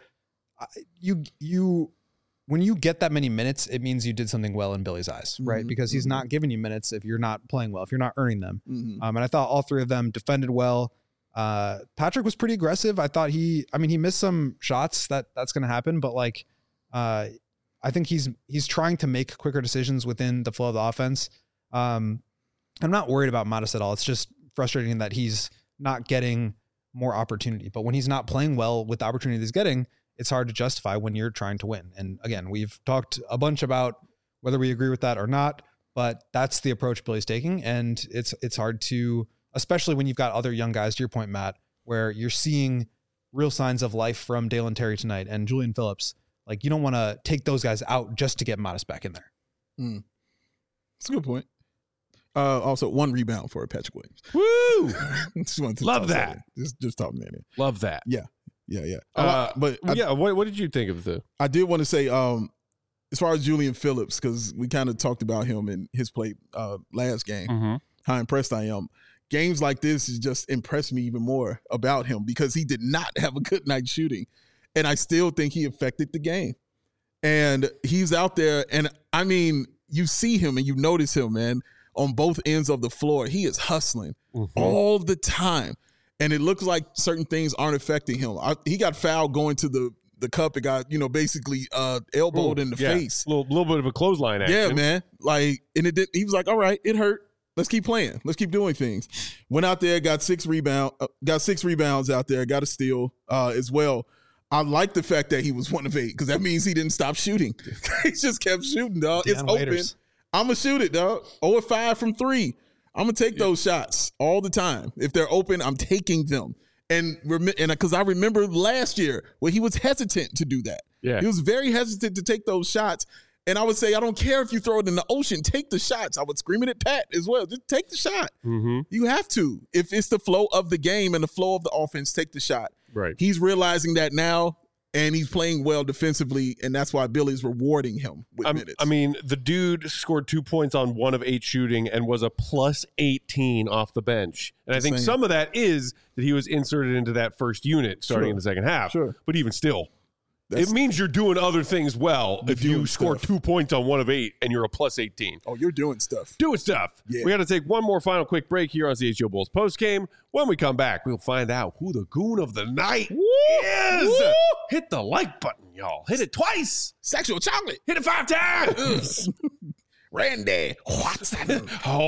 when you get that many minutes, it means you did something well in Billy's eyes, right? Because he's not giving you minutes if you're not playing well, if you're not earning them. And I thought all 3 of them defended well. Patrick was pretty aggressive. I thought he missed some shots that's going to happen, but I think he's trying to make quicker decisions within the flow of the offense. I'm not worried about Modest at all. It's just frustrating that he's not getting more opportunity, but when he's not playing well with the opportunity he's getting, it's hard to justify when you're trying to win. And again, we've talked a bunch about whether we agree with that or not, but that's the approach Billy's taking. And it's hard to, especially when you've got other young guys, to your point, Matt, where you're seeing real signs of life from Dalen Terry tonight and Julian Phillips. Like, you don't want to take those guys out just to get Modest back in there. That's a good point. Also, 1 rebound for Patrick Williams. Woo! Just wanted to Love that. Just talking about it. Love that. Yeah. What did you think of the? I did want to say, as far as Julian Phillips, because we kind of talked about him in his play last game, how impressed I am. Games like this has just impressed me even more about him because he did not have a good night shooting, and I still think he affected the game. And he's out there, and I mean, you see him and you notice him, man, on both ends of the floor. He is hustling all the time. And it looks like certain things aren't affecting him. He got fouled going to the cup. It got, basically elbowed in the face. A little bit of a clothesline action. Yeah, man. And it did. He was like, all right, it hurt. Let's keep playing. Let's keep doing things. Went out there, got 6 rebounds out there, got a steal as well. I like the fact that he was 1 of 8 because that means he didn't stop shooting. He just kept shooting, dog. It's open. I'm going to shoot it, dog. 0 of 5 from 3. I'm going to take those shots all the time. If they're open, I'm taking them. And because I remember last year where he was hesitant to do that. Yeah. He was very hesitant to take those shots. And I would say, I don't care if you throw it in the ocean, take the shots. I would scream it at Pat as well. Just take the shot. You have to. If it's the flow of the game and the flow of the offense, take the shot. Right. He's realizing that now. And he's playing well defensively, and that's why Billy's rewarding him with minutes. I mean, the dude scored 2 points on 1 of 8 shooting and was a plus 18 off the bench. And I think some of that is that he was inserted into that first unit starting in the second half. But even still, it means you're doing other things well if you score 2 points on 1 of 8 and you're a plus 18. Oh, you're doing stuff. Doing stuff. Yeah. We got to take one more final quick break here on CHGO Bulls postgame. When we come back, we'll find out who the goon of the night is. Woo! Hit the like button, y'all. Hit it twice. Sexual chocolate. Hit it 5 times. Randy Watson.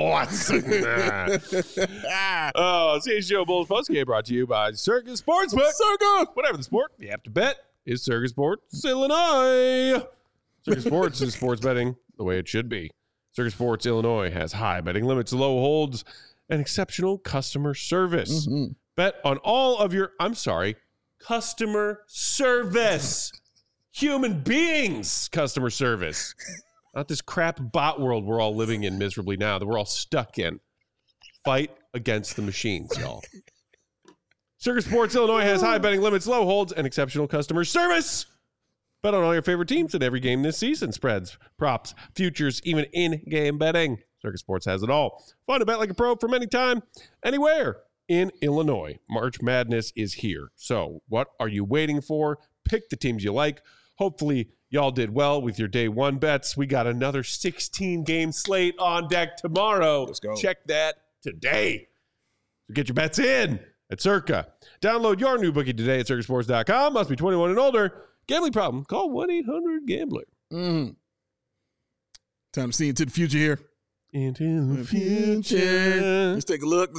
CHGO Bulls postgame brought to you by Circus Sportsbook. Circus. Whatever the sport, you have to bet is Circus Sports Illinois. Circus Sports is sports betting the way it should be. Circus Sports Illinois has high betting limits, low holds, and exceptional customer service. Mhm. Bet on all of your, customer service. Human beings customer service. Not this crap bot world we're all living in miserably now that we're all stuck in. Fight against the machines, y'all. Circus Sports Illinois has high betting limits, low holds, and exceptional customer service. Bet on all your favorite teams in every game this season. Spreads, props, futures, even in-game betting. Circus Sports has it all. Fun to bet like a pro from anytime, anywhere in Illinois. March Madness is here. So what are you waiting for? Pick the teams you like. Hopefully y'all did well with your day one bets. We got another 16-game slate on deck tomorrow. Let's go. Check that today. So get your bets in at Circa. Download your new bookie today at circusports.com. Must be 21 and older. Gambling problem? Call 1-800-GAMBLER. Mhm. Time to see into the future here. Into the future. Let's take a look.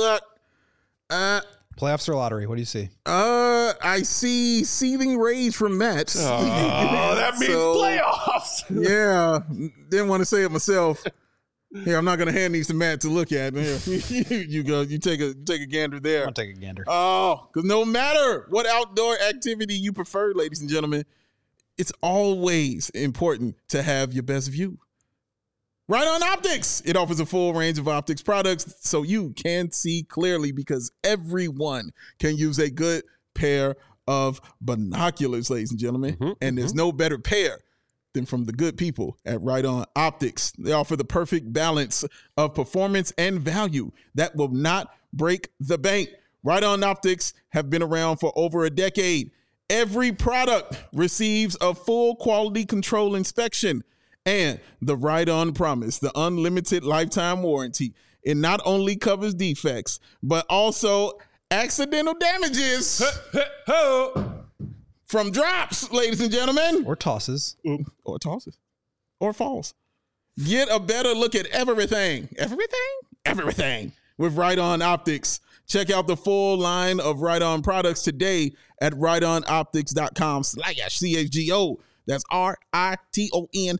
Playoffs or lottery? What do you see? I see seething rage from Matt. Oh, that means So, playoffs. Yeah, didn't want to say it myself. Here, I'm not going to hand these to Matt to look at. Here, you go. You take a gander there. I'll take a gander. Oh, because no matter what outdoor activity you prefer, ladies and gentlemen, it's always important to have your best view. Right On Optics. It offers a full range of optics products so you can see clearly, because everyone can use a good pair of binoculars, ladies and gentlemen. And there's no better pair than from the good people at Right On Optics. They offer the perfect balance of performance and value that will not break the bank. Right On Optics have been around for over a decade. Every product receives a full quality control inspection and the Right On Promise, the unlimited lifetime warranty. It not only covers defects, but also accidental damages from drops, ladies and gentlemen. Or tosses. Or tosses. Or falls. Get a better look at everything. Everything with Right On Optics. Check out the full line of Right On products today at rightonoptics.com/CHGO. That's RITON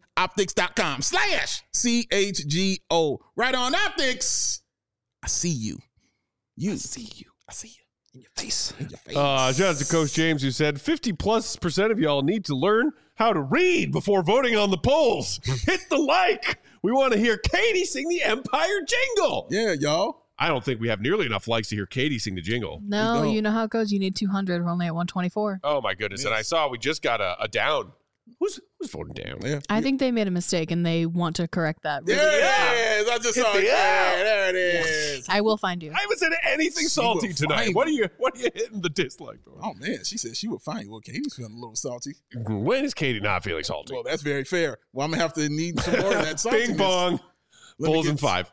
optics.com/CHGO. Right On Optics. I see you. I see you. In your face. Shout out to Coach James, who said 50+% of y'all need to learn how to read before voting on the polls. Hit the like. We want to hear Katie sing the Empire jingle. Yeah, y'all. I don't think we have nearly enough likes to hear Katie sing the jingle. No, don't. you know how it goes. You need 200. We're only at 124. Oh, my goodness. And I saw we just got a down. Who's voting down? Yeah. I think they made a mistake and they want to correct that. There it is. I just saw it. Yeah, there it is. I will find you. I haven't said anything She salty will tonight. find What are you hitting the dislike for? Oh, man. She said she would find you. Okay, he was feeling a little salty. When is Katie not feeling salty? Well, that's very fair. Well, I'm going to have to need some more of that saltiness. Bing bong. Let me Bulls get in 5.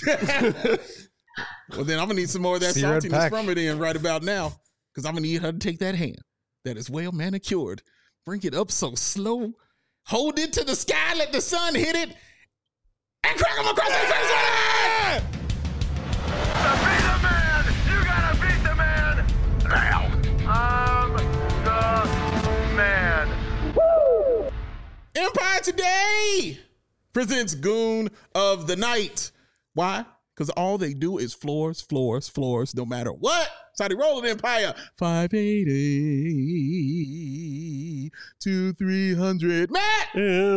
Well, then I'm going to need some more of that See you, Red saltiness Pack. from her then right about now, because I'm going to need her to take that hand that is well manicured, bring it up so slow, hold it to the sky, let the sun hit it, and crack them across the face with it! To be the man, you gotta beat the man now. I'm the man. Empire Today presents Goon of the Night. Why? Because all they do is floors, no matter what. That's how they roll it, Empire. 580 to 300. Matt!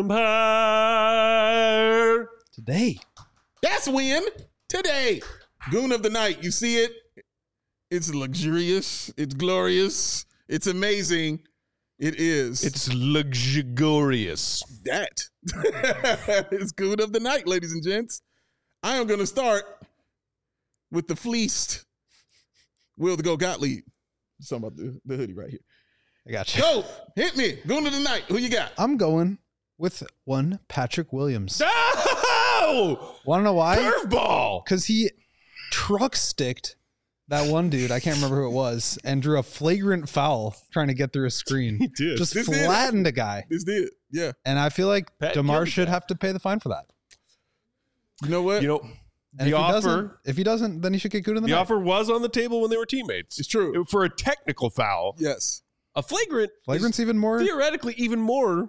Empire. Today. That's win today. Goon of the Night. You see it? It's luxurious. It's glorious. It's amazing. It is. It's luxurious. that. It's Goon of the Night, ladies and gents. I am going to start with the fleeced Will the Go Gottlieb. Something about the hoodie right here. I got you. Go, hit me. Goon of the Night. Who you got? I'm going with one Patrick Williams. Oh! Want to know why? Curveball. Because he truck sticked that one dude, I can't remember who it was, and drew a flagrant foul trying to get through a screen. He did. Just This did. flattened a guy. This did. Yeah. And I feel like Pat DeMar Gilbert. should have to pay the fine for that. You know what? You know, And the offer. if he doesn't, then he should get good in the The night. offer was on the table when they were teammates. It's true. For a technical foul. Yes. A flagrant. Flagrant's is even more. theoretically even more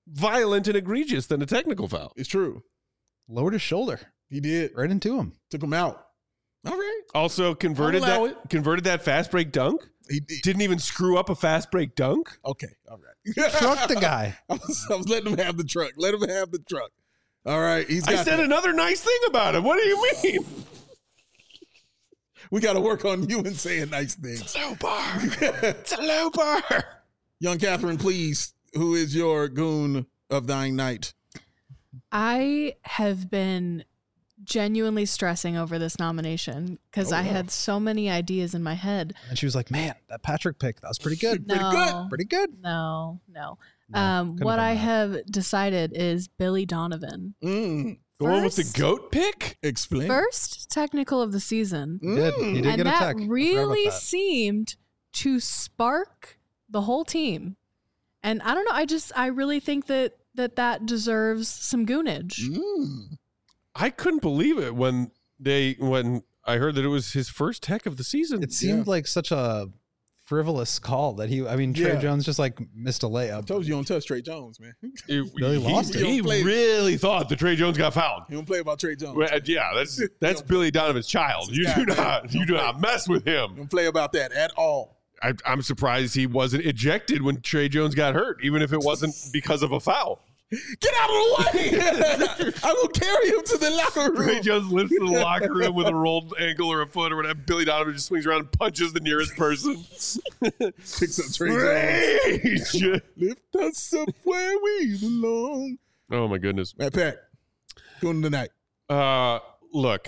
violent and egregious than a technical foul. It's true. Lowered his shoulder He did. right into him. Took him out. All right. Also converted I'll allow that fast break dunk. He did. Didn't even screw up a fast break dunk. Okay. All right. Trucked the guy. I was letting him have the truck. Let him have the truck. All right. He's got I said that. another nice thing about him. What do you mean? We got to work on you and saying nice things. Low bar. It's a low bar. Young Catherine, please. Who is your goon of thine night? I have been genuinely stressing over this nomination because I had so many ideas in my head. And she was like, man, that Patrick pick, that was pretty good. Pretty good. Pretty good. No. No, What couldn't have I been that. have decided is Billy Donovan. Mm. The one with the First- goat pick? Explain. First technical of the season. He did. He did And get a that tech. I forgot about really that. seemed to spark the whole team. And I don't know, I really think that deserves some goonage. Mm. I couldn't believe it when I heard that it was his first tech of the season. It seemed like such a frivolous call that Trey Yeah. Jones just like missed a layup. I told you don't touch Trey Jones, man. Billy lost it. He really thought that Trey Jones got fouled. You don't play about Trey Jones. Well, yeah, that's Billy Donovan's child. You do not mess with You him. don't play about that at all. I'm surprised he wasn't ejected when Trey Jones got hurt, even if it wasn't because of a foul. Get out of the way! I will carry him to the locker Trey room. Jones lifts to the locker room with a rolled ankle or a foot or whatever. Billy Donovan just swings around and punches the nearest person. Picks up Trey Jones. Rage! Lift us up where we belong. Oh my goodness. Matt Pack, goon of the night. Look,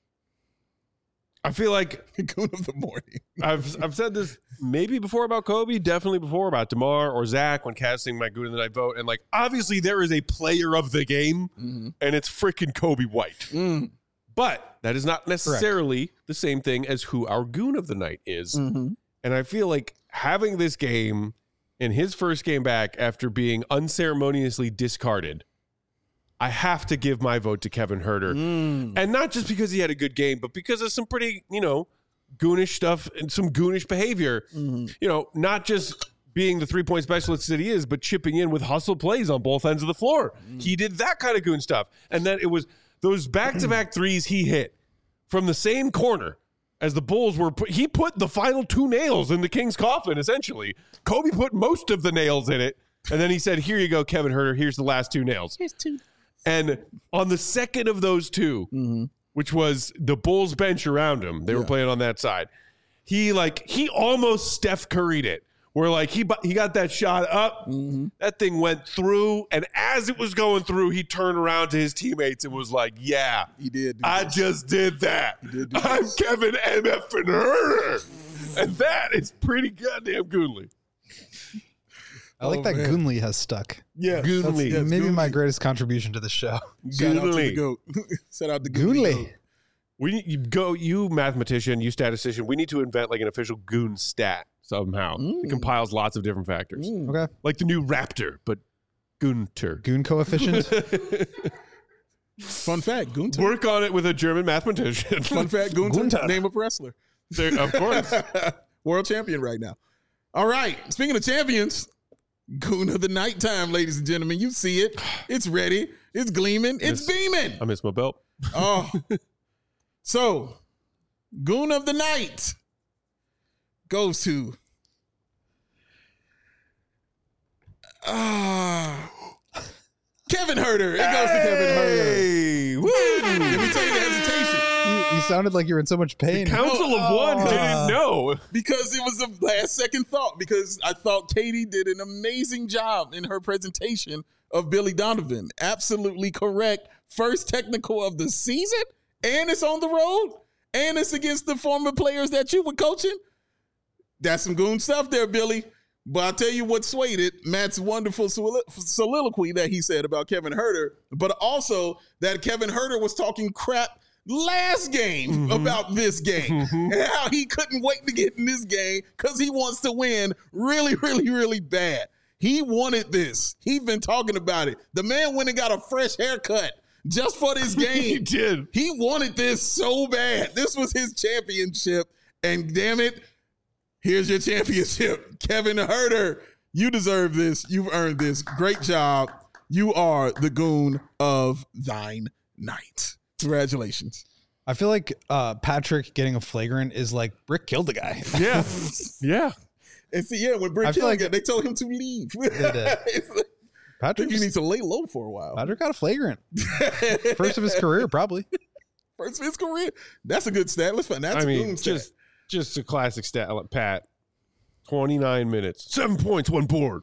I feel like Goon of the morning. I've said this maybe before about Kobe, definitely before about DeMar or Zach when casting my Goon of the Night vote. And like, obviously there is a player of the game and it's freaking Kobe White. Mm. But that is not necessarily the same thing as who our Goon of the Night is. Mm-hmm. And I feel like having this game in his first game back after being unceremoniously discarded, I have to give my vote to Kevin Huerter. And not just because he had a good game, but because of some pretty, goonish stuff and some goonish behavior. Not just being the three-point specialist that he is, but chipping in with hustle plays on both ends of the floor. He did that kind of goon stuff. And then it was those back-to-back threes he hit from the same corner as the Bulls were. He put the final two nails in the King's coffin, essentially. Kobe put most of the nails in it. And then he said, here you go, Kevin Huerter. Here's the last two nails. Here's two. And on the second of those two, which was the Bulls bench around him, they were playing on that side. He almost Steph Curry'd it, where like he got that shot up, that thing went through, and as it was going through, he turned around to his teammates and was like, "Yeah, He did. I just did that. I'm Kevin MF and Huerter," and that is pretty goddamn goodly. I like that man. Goonly has stuck. Yeah. Goonly. That's Maybe my Goonly. greatest contribution to the show. Shout out to the Goonly. goat. Shout out to Goonly. Goonly. You mathematician, you statistician. We need to invent like an official goon stat somehow. It compiles lots of different factors, Okay. like the new Raptor, but Gunter. Goon coefficient. Fun fact, Gunther. Work on it with a German mathematician. Fun fact, Gunther. Gunther. Name of wrestler. There- of course. World champion right now. All right. Speaking of champions, Goon of the nighttime, ladies and gentlemen. You see it. It's ready. It's gleaming. It's beaming. I miss my belt. Oh. So, Goon of the night goes to Kevin Huerter. It goes to Kevin Huerter. Hey, woo! Let me tell you the hesitation. You sounded like you were in so much pain. Council of One didn't know. Because it was a last second thought. Because I thought Katie did an amazing job in her presentation of Billy Donovan. Absolutely correct. First technical of the season, and it's on the road, and it's against the former players that you were coaching. That's some goon stuff there, Billy. But I'll tell you what swayed it. Matt's wonderful soliloquy that he said about Kevin Huerter, but also that Kevin Huerter was talking crap last game about this game and how he couldn't wait to get in this game because he wants to win really, really, really bad. He wanted this. He's been talking about it. The man went and got a fresh haircut just for this game. He did. He wanted this so bad. This was his championship. And damn it, here's your championship. Kevin Huerter, You deserve this. You've earned this. Great job. You are the goon of thine night. Congratulations. I feel like Patrick getting a flagrant is like Brick killed the guy. Yeah. Yeah. And see, yeah, when Brick I feel killed like it, they told him to leave. They did. It's like, I Patrick think he needs to lay low for a while. Patrick got a flagrant. First of his career, probably. First of his career. That's a good stat. Let's find that's I a mean, goon stat. just a classic stat. Like Pat, 29 minutes, 7 points, 1 board,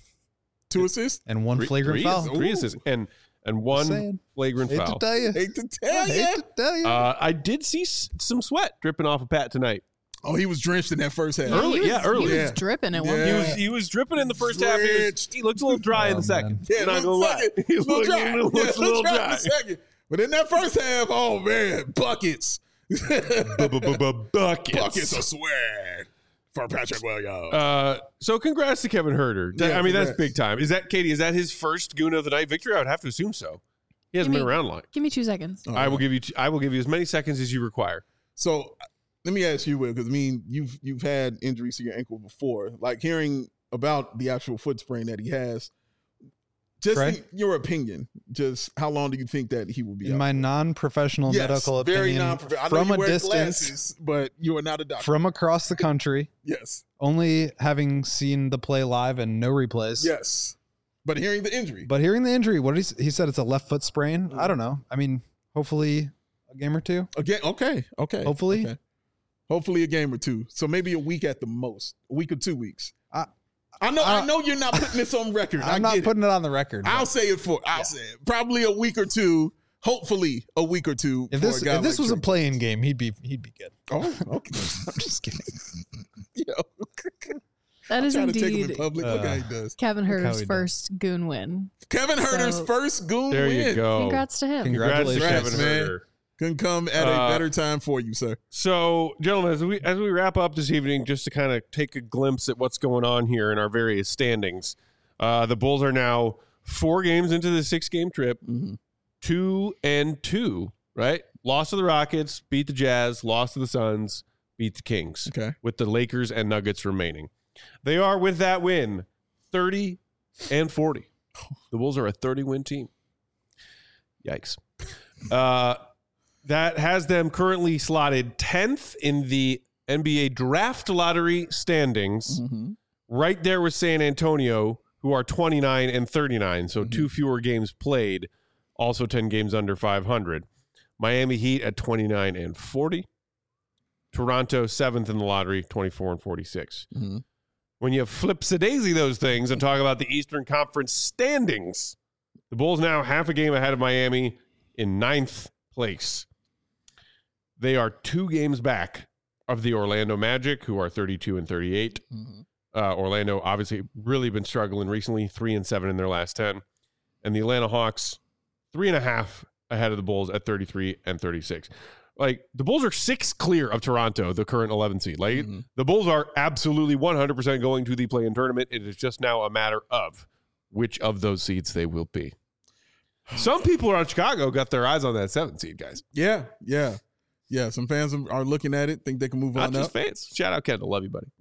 2 assists. And one flagrant foul. 3 assists, and one saying. flagrant Hate to foul. tell you. Hate to tell you. Hate to tell you. I did see some sweat dripping off of Pat tonight. Oh, he was drenched in that first half. Early, he yeah, was, early. He Yeah. was dripping at one Yeah. point. He was dripping in the first Drenched. half. He looked a little dry in Oh, the second. Yeah, Not gonna little lie. second. He Little looked dry. a little in dry. the second. But in that first half, oh man, buckets. Buckets. Buckets of sweat for Patrick Williams. So congrats to Kevin Herter. Yeah, I mean, that's congrats. big time. Is that, Katie, is that his first Goon of the Night victory? I would have to assume so. He hasn't Give been me- around long. Give me 2 seconds. Oh, I will give you as many seconds as you require. So let me ask you, Will, because I mean, you've had injuries to your ankle before. Like hearing about the actual foot sprain that he has. Just Right. in your opinion, just how long do you think that he will be In out? my non-professional Yes, medical very opinion, non-professional. I know from you a wear distance, glasses, but you are not a doctor. from across the country, Yes, only having seen the play live and no replays. yes. But hearing the injury, But hearing the injury, what did he said it's a left foot sprain. Mm. I don't know. I mean, hopefully a game or two. again, okay. Hopefully. Okay. Hopefully a game or two. So maybe a week at the most, a week or 2 weeks. I know you're not putting this on record. I'm not putting it on the record. I'll but say it I'll say it. Probably a week or two. Hopefully a week or two. If for this a guy was like a playing game, he'd be good. Oh, okay. I'm just kidding. Yo, That is trying to take him in indeed public. Look how he does. Kevin Look how Herter's he does. first goon win. Kevin Herter's So- first goon There win. you go. Congrats to him. Congrats to Congratulations, Kevin man. Herter. Couldn't come at a better time for you, sir. So, gentlemen, as we wrap up this evening, just to kind of take a glimpse at what's going on here in our various standings, the Bulls are now 4 games into the 6-game trip, 2-2, right? Lost to the Rockets, beat the Jazz, lost to the Suns, beat the Kings, Okay. with the Lakers and Nuggets remaining. They are, with that win, 30-40. The Bulls are a 30-win team. Yikes. That has them currently slotted 10th in the NBA draft lottery standings, right there with San Antonio, who are 29-39, so 2 fewer games played, also 10 games under 500. Miami Heat at 29-40. Toronto 7th in the lottery, 24-46. When you flip-a-daisy those things and talk about the Eastern Conference standings, the Bulls now half a game ahead of Miami in 9th place. They are 2 games back of the Orlando Magic, who are 32-38. Orlando obviously really been struggling recently, 3-7 in their last 10. And the Atlanta Hawks, 3.5 ahead of the Bulls at 33-36. Like, the Bulls are 6 clear of Toronto, the current 11 seed. Like, the Bulls are absolutely 100% going to the play-in tournament. It is just now a matter of which of those seeds they will be. Some people around Chicago got their eyes on that 7th seed, guys. Yeah. Some fans are looking at it, think they can move Not on just up. fans. Shout out Kendall. Love you, buddy.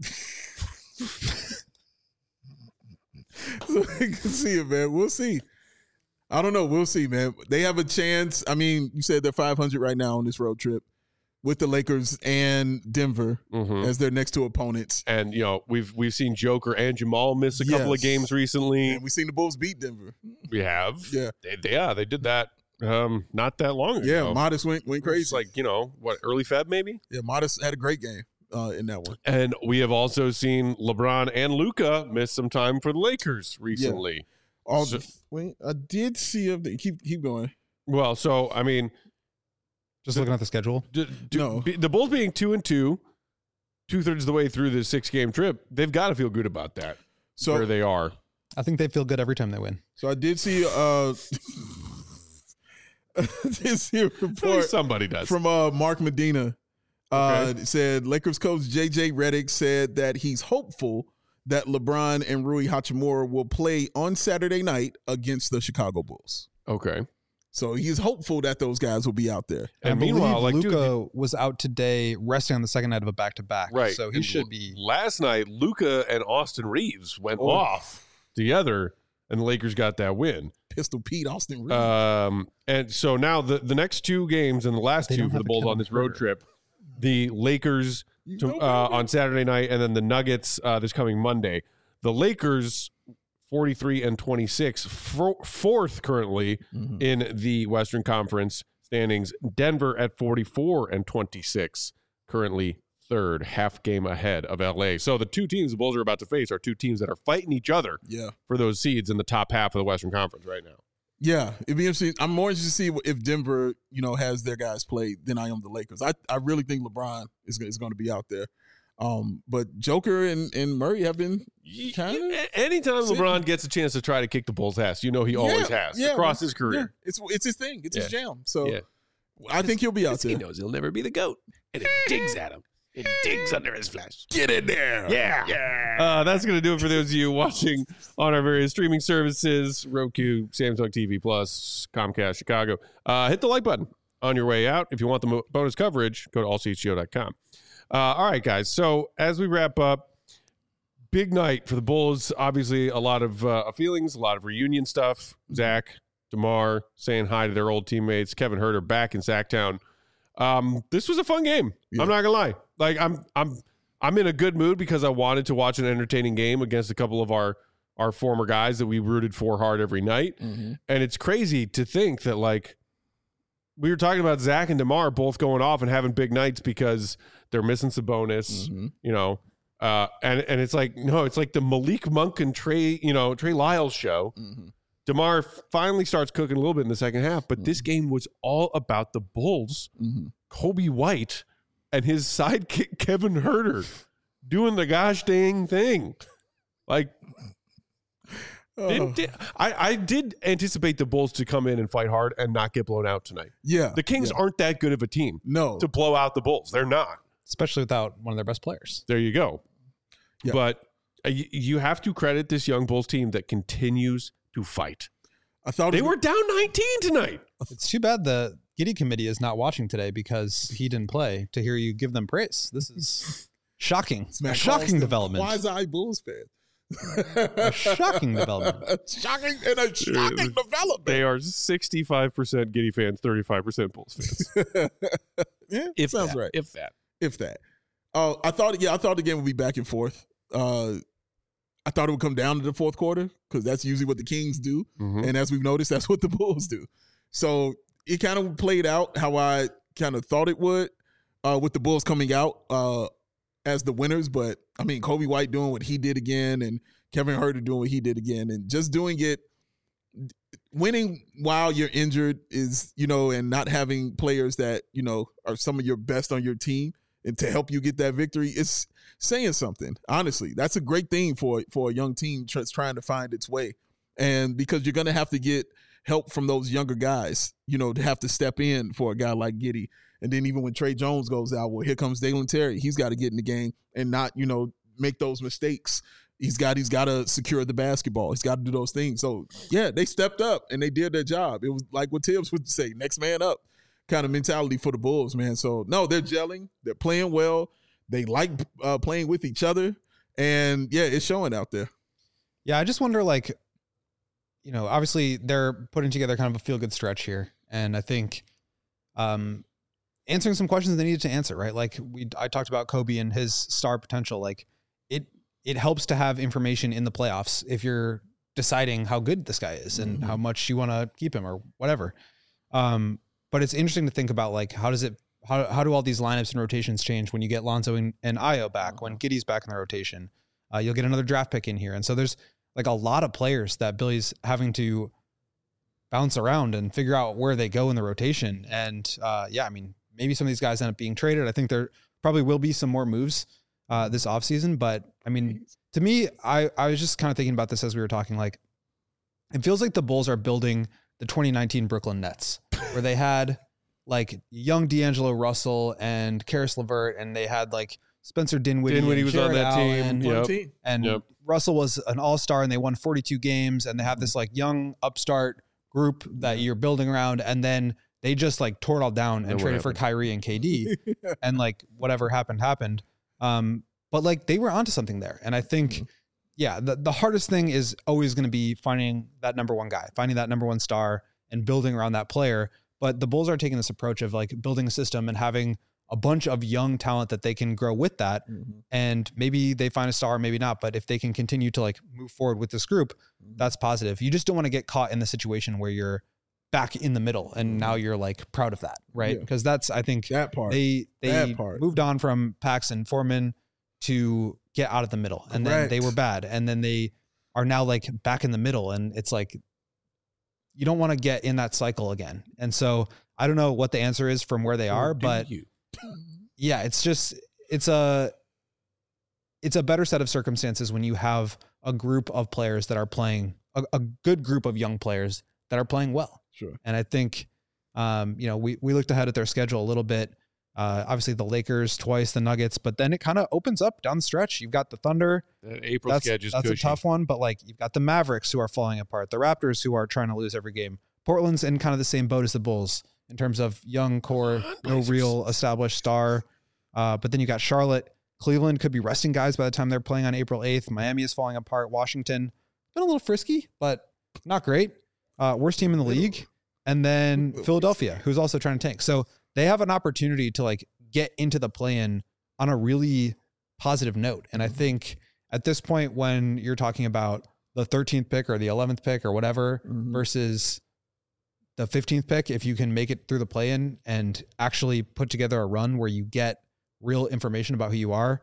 So we can see it, man. We'll see. I don't know. We'll see, man. They have a chance. I mean, you said they're 500 right now on this road trip with the Lakers and Denver as their next 2 opponents. And, you know, we've seen Joker and Jamal miss a couple of Yes. games recently. And we've seen the Bulls beat Denver. We have. Yeah. They did that not that long ago. Yeah, Modest went crazy. It's like, you know, what, early Feb maybe? Yeah, Modest had a great game in that one. And we have also seen LeBron and Luka miss some time for the Lakers recently. Wait, I did see if they keep going. Well, so, I mean, Just looking at the schedule. No. the Bulls being 2-2, 2/3 of the way through this 6-game trip, they've got to feel good about that. So where they are. I think they feel good every time they win. So I did see I did see a report Somebody does. from Mark Medina. It said Lakers coach JJ Redick said that he's hopeful that LeBron and Rui Hachimura will play on Saturday night against the Chicago Bulls. Okay. So he's hopeful that those guys will be out there. And I meanwhile, believe like, Luka was out today resting on the second night of a back-to-back. Right. So he And should be. Last night, Luka and Austin Reeves went off together, and the Lakers got that win. Pistol Pete, Austin Reeves. And so now the next two games and the last They two don't for the have a Bulls Kevin on this road Huerter. trip, the Lakers on Saturday night, and then the Nuggets this coming Monday. The Lakers 43-26, fourth currently in the Western Conference standings. Denver at 44-26, currently third, half game ahead of LA. So the two teams the Bulls are about to face are two teams that are fighting each other for those seeds in the top half of the Western Conference right now. Yeah, it'd be interesting. I'm more interested to see if Denver, has their guys play than I am the Lakers. I really think LeBron is going to be out there. But Joker and Murray have been kind of. Anytime LeBron gets a chance to try to kick the Bulls' ass, he always has across his career. Yeah. It's his thing. It's his jam. So Yeah. I think he'll be out there. He knows he'll never be the GOAT, and it digs at him. It digs under his flesh. Get in there. Yeah. That's going to do it for those of you watching on our various streaming services, Roku, Samsung TV Plus, Comcast Chicago. Hit the like button on your way out. If you want the bonus coverage, go to allchgo.com. All right, guys. So as we wrap up, big night for the Bulls. Obviously, a lot of feelings, a lot of reunion stuff. Zach, DeMar saying hi to their old teammates. Kevin Huerter back in Sacktown. This was a fun game. I'm not gonna lie. Like I'm in a good mood because I wanted to watch an entertaining game against a couple of our former guys that we rooted for hard every night. And it's crazy to think that, like, we were talking about Zach and DeMar both going off and having big nights because they're missing Sabonis, and it's like, no, it's like the Malik Monk and Trey Lyles show. DeMar finally starts cooking a little bit in the second half, but this game was all about the Bulls, Kobe White, and his sidekick Kevin Huerter doing the gosh dang thing. Like, I did anticipate the Bulls to come in and fight hard and not get blown out tonight. Yeah. The Kings aren't that good of a team to blow out the Bulls. They're not. Especially without one of their best players. There you go. Yeah. But you have to credit this young Bulls team that continues to fight. I thought They were down 19 tonight. It's too bad the Giddy committee is not watching today because he didn't play to hear you give them praise. This is shocking. A shocking development. Wise-eyed Bulls fan. A shocking development. Shocking development. They are 65% Giddy fans, 35% Bulls fans. Yeah, sounds right. If that. I thought the game would be back and forth. I thought it would come down to the fourth quarter because that's usually what the Kings do. And as we've noticed, that's what the Bulls do. So it kind of played out how I kind of thought it would with the Bulls coming out as the winners. But, I mean, Kobe White doing what he did again and Kevin Huerter doing what he did again and just doing it. Winning while you're injured is, and not having players that, are some of your best on your team and to help you get that victory, it's saying something. Honestly, that's a great thing for a young team trying to find its way. And because you're going to have to get help from those younger guys, to have to step in for a guy like Giddey. And then even when Trey Jones goes out, well, here comes Dalen Terry. He's got to get in the game and not, make those mistakes. He's got to secure the basketball. He's got to do those things. So, yeah, they stepped up and they did their job. It was like what Tibbs would say, next man up kind of mentality for the Bulls, man. So, no, they're gelling. They're playing well. They like playing with each other. And, yeah, it's showing out there. Yeah, I just wonder, like, obviously they're putting together kind of a feel-good stretch here. And I think answering some questions they needed to answer, right? Like I talked about Kobe and his star potential. Like it helps to have information in the playoffs if you're deciding how good this guy is and how much you want to keep him or whatever. But it's interesting to think about, like, how do all these lineups and rotations change when you get Lonzo and Ayo back, when Giddey's back in the rotation? You'll get another draft pick in here. And so there's like a lot of players that Billy's having to bounce around and figure out where they go in the rotation. And I mean, maybe some of these guys end up being traded. I think there probably will be some more moves this offseason. But I mean, to me, I was just kind of thinking about this as we were talking. Like, it feels like the Bulls are building the 2019 Brooklyn Nets, where they had like young D'Angelo Russell and Karis LeVert, and they had like Spencer Dinwiddie. Dinwiddie was on that team. And Russell was an all-star, and they won 42 games, and they have this like young upstart group that you're building around, and then they just like tore it all down and traded for Kyrie and KD, and like whatever happened. But like they were onto something there, and I think, the hardest thing is always going to be finding that number one guy, finding that number one star, and building around that player. But the Bulls are taking this approach of like building a system and having a bunch of young talent that they can grow with that. And maybe they find a star, maybe not. But if they can continue to like move forward with this group, that's positive. You just don't want to get caught in the situation where you're back in the middle and now you're like proud of that, right? Because that's, I think that part. They moved on from Pax and Foreman to get out of the middle, and then they were bad, and then they are now like back in the middle, and it's like you don't want to get in that cycle again. And so I don't know what the answer is from where they are, but it's a better set of circumstances when you have a group of players that are playing a good group of young players that are playing well. Sure. And I think, we looked ahead at their schedule a little bit. Obviously the Lakers twice, the Nuggets, but then it kind of opens up down the stretch. You've got the Thunder. That April schedule is that's cushy. A tough one, but like you've got the Mavericks who are falling apart, the Raptors who are trying to lose every game. Portland's in kind of the same boat as the Bulls in terms of young core, no real established star. But then you got Charlotte. Cleveland could be resting guys by the time they're playing on April 8th. Miami is falling apart. Washington, been a little frisky, but not great. Worst team in the league. And then Philadelphia, who's also trying to tank. So they have an opportunity to like get into the play-in on a really positive note. And I think at this point, when you're talking about the 13th pick or the 11th pick or whatever versus the 15th pick, if you can make it through the play-in and actually put together a run where you get real information about who you are.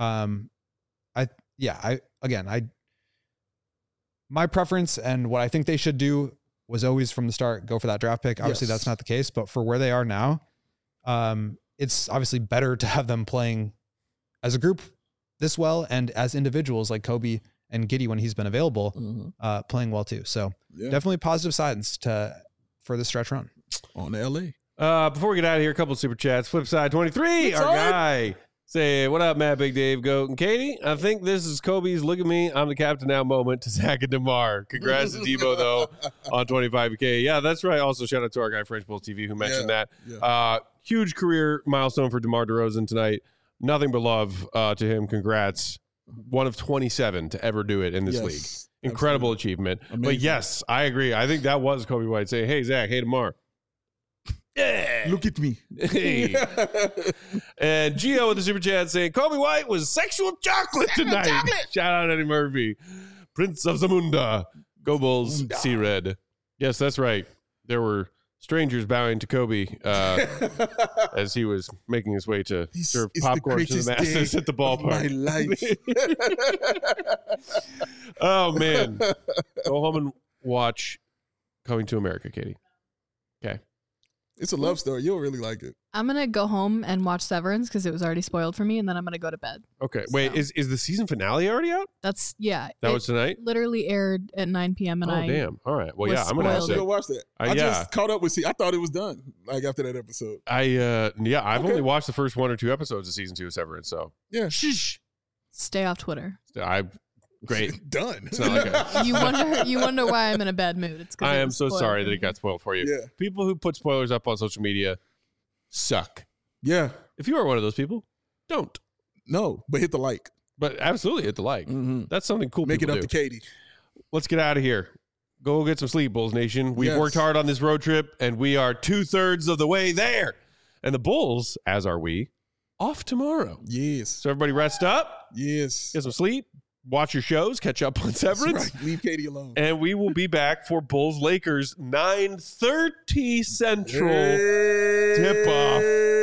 My preference and what I think they should do was always from the start, go for that draft pick. Obviously that's not the case, but for where they are now, it's obviously better to have them playing as a group this well and as individuals like Kobe and Giddey when he's been available, playing well too. So definitely positive signs for the stretch run. On to LA. Before we get out of here, a couple of super chats. Flipside 23, our guy. Say, what up, Matt, Big Dave, Goat, and Katie? I think this is Kobe's look at me, I'm the captain now moment to Zach and DeMar. Congrats to Debo, though, on 25K. Yeah, that's right. Also, shout out to our guy, French Bulls TV, who mentioned that. Yeah. Huge career milestone for DeMar DeRozan tonight. Nothing but love to him. Congrats. One of 27 to ever do it in this league. Incredible achievement. Amazing. But yes, I agree. I think that was Kobe White saying, hey, Zach, hey, DeMar. Yeah. Look at me. Hey. And Gio with the super chat saying Kobe White was sexual chocolate tonight. Shout out Eddie Murphy. Prince of Zamunda. Go Bulls. See red. Yes, that's right. There were strangers bowing to Kobe as he was making his way to serve popcorn to the masses at the ballpark. My life. Oh, man. Go home and watch Coming to America, Katie. Okay. It's a love story. You'll really like it. I'm going to go home and watch Severance because it was already spoiled for me, and then I'm going to go to bed. Okay. Wait, is the season finale already out? That's, yeah. That was tonight? Literally aired at 9 p.m. and damn. All right. Well, yeah, I'm going to have to watch that. I just caught up with I thought it was done, like, after that episode. I've only watched the first 1 or 2 episodes of season 2 of Severance, so. Yeah. Shh. Stay off Twitter. Great. Done. It's not like you wonder why I'm in a bad mood. It's because I am so sorry that it got spoiled for you. Yeah. People who put spoilers up on social media suck. Yeah. If you are one of those people, don't. No, but hit the like. But absolutely hit the like. Mm-hmm. That's something cool. Make it up do. to Katie. Let's get out of here. Go get some sleep, Bulls Nation. We've worked hard on this road trip, and we are 2/3 of the way there. And the Bulls, as are we, off tomorrow. Yes. So everybody rest up. Yes. Get some sleep. Watch your shows. Catch up on Severance. Right. Leave Katie alone. And we will be back for Bulls Lakers 9:30 Central tip-off.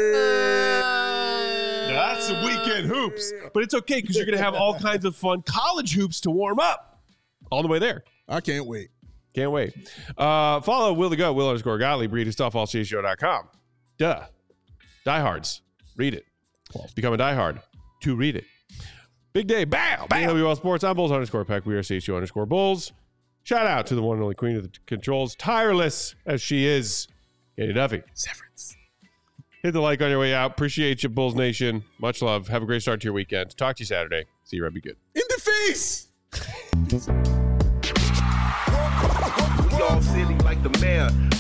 That's some weekend hoops. But it's okay because you're going to have all kinds of fun college hoops to warm up all the way there. I can't wait. Can't wait. Follow Will the Go, Will_Gottlieb. Read his stuff, allcshow.com. Duh. Diehards. Read it. Become a diehard to read it. Big day. Bow. AWL Sports. I'm Bulls_Peck. We are CHU_Bulls. Shout out to the one and only queen of the controls. Tireless as she is. Katie Duffy. Severance. Hit the like on your way out. Appreciate you, Bulls Nation. Much love. Have a great start to your weekend. Talk to you Saturday. See you, Red. Be good. In the face. Y'all silly like the man.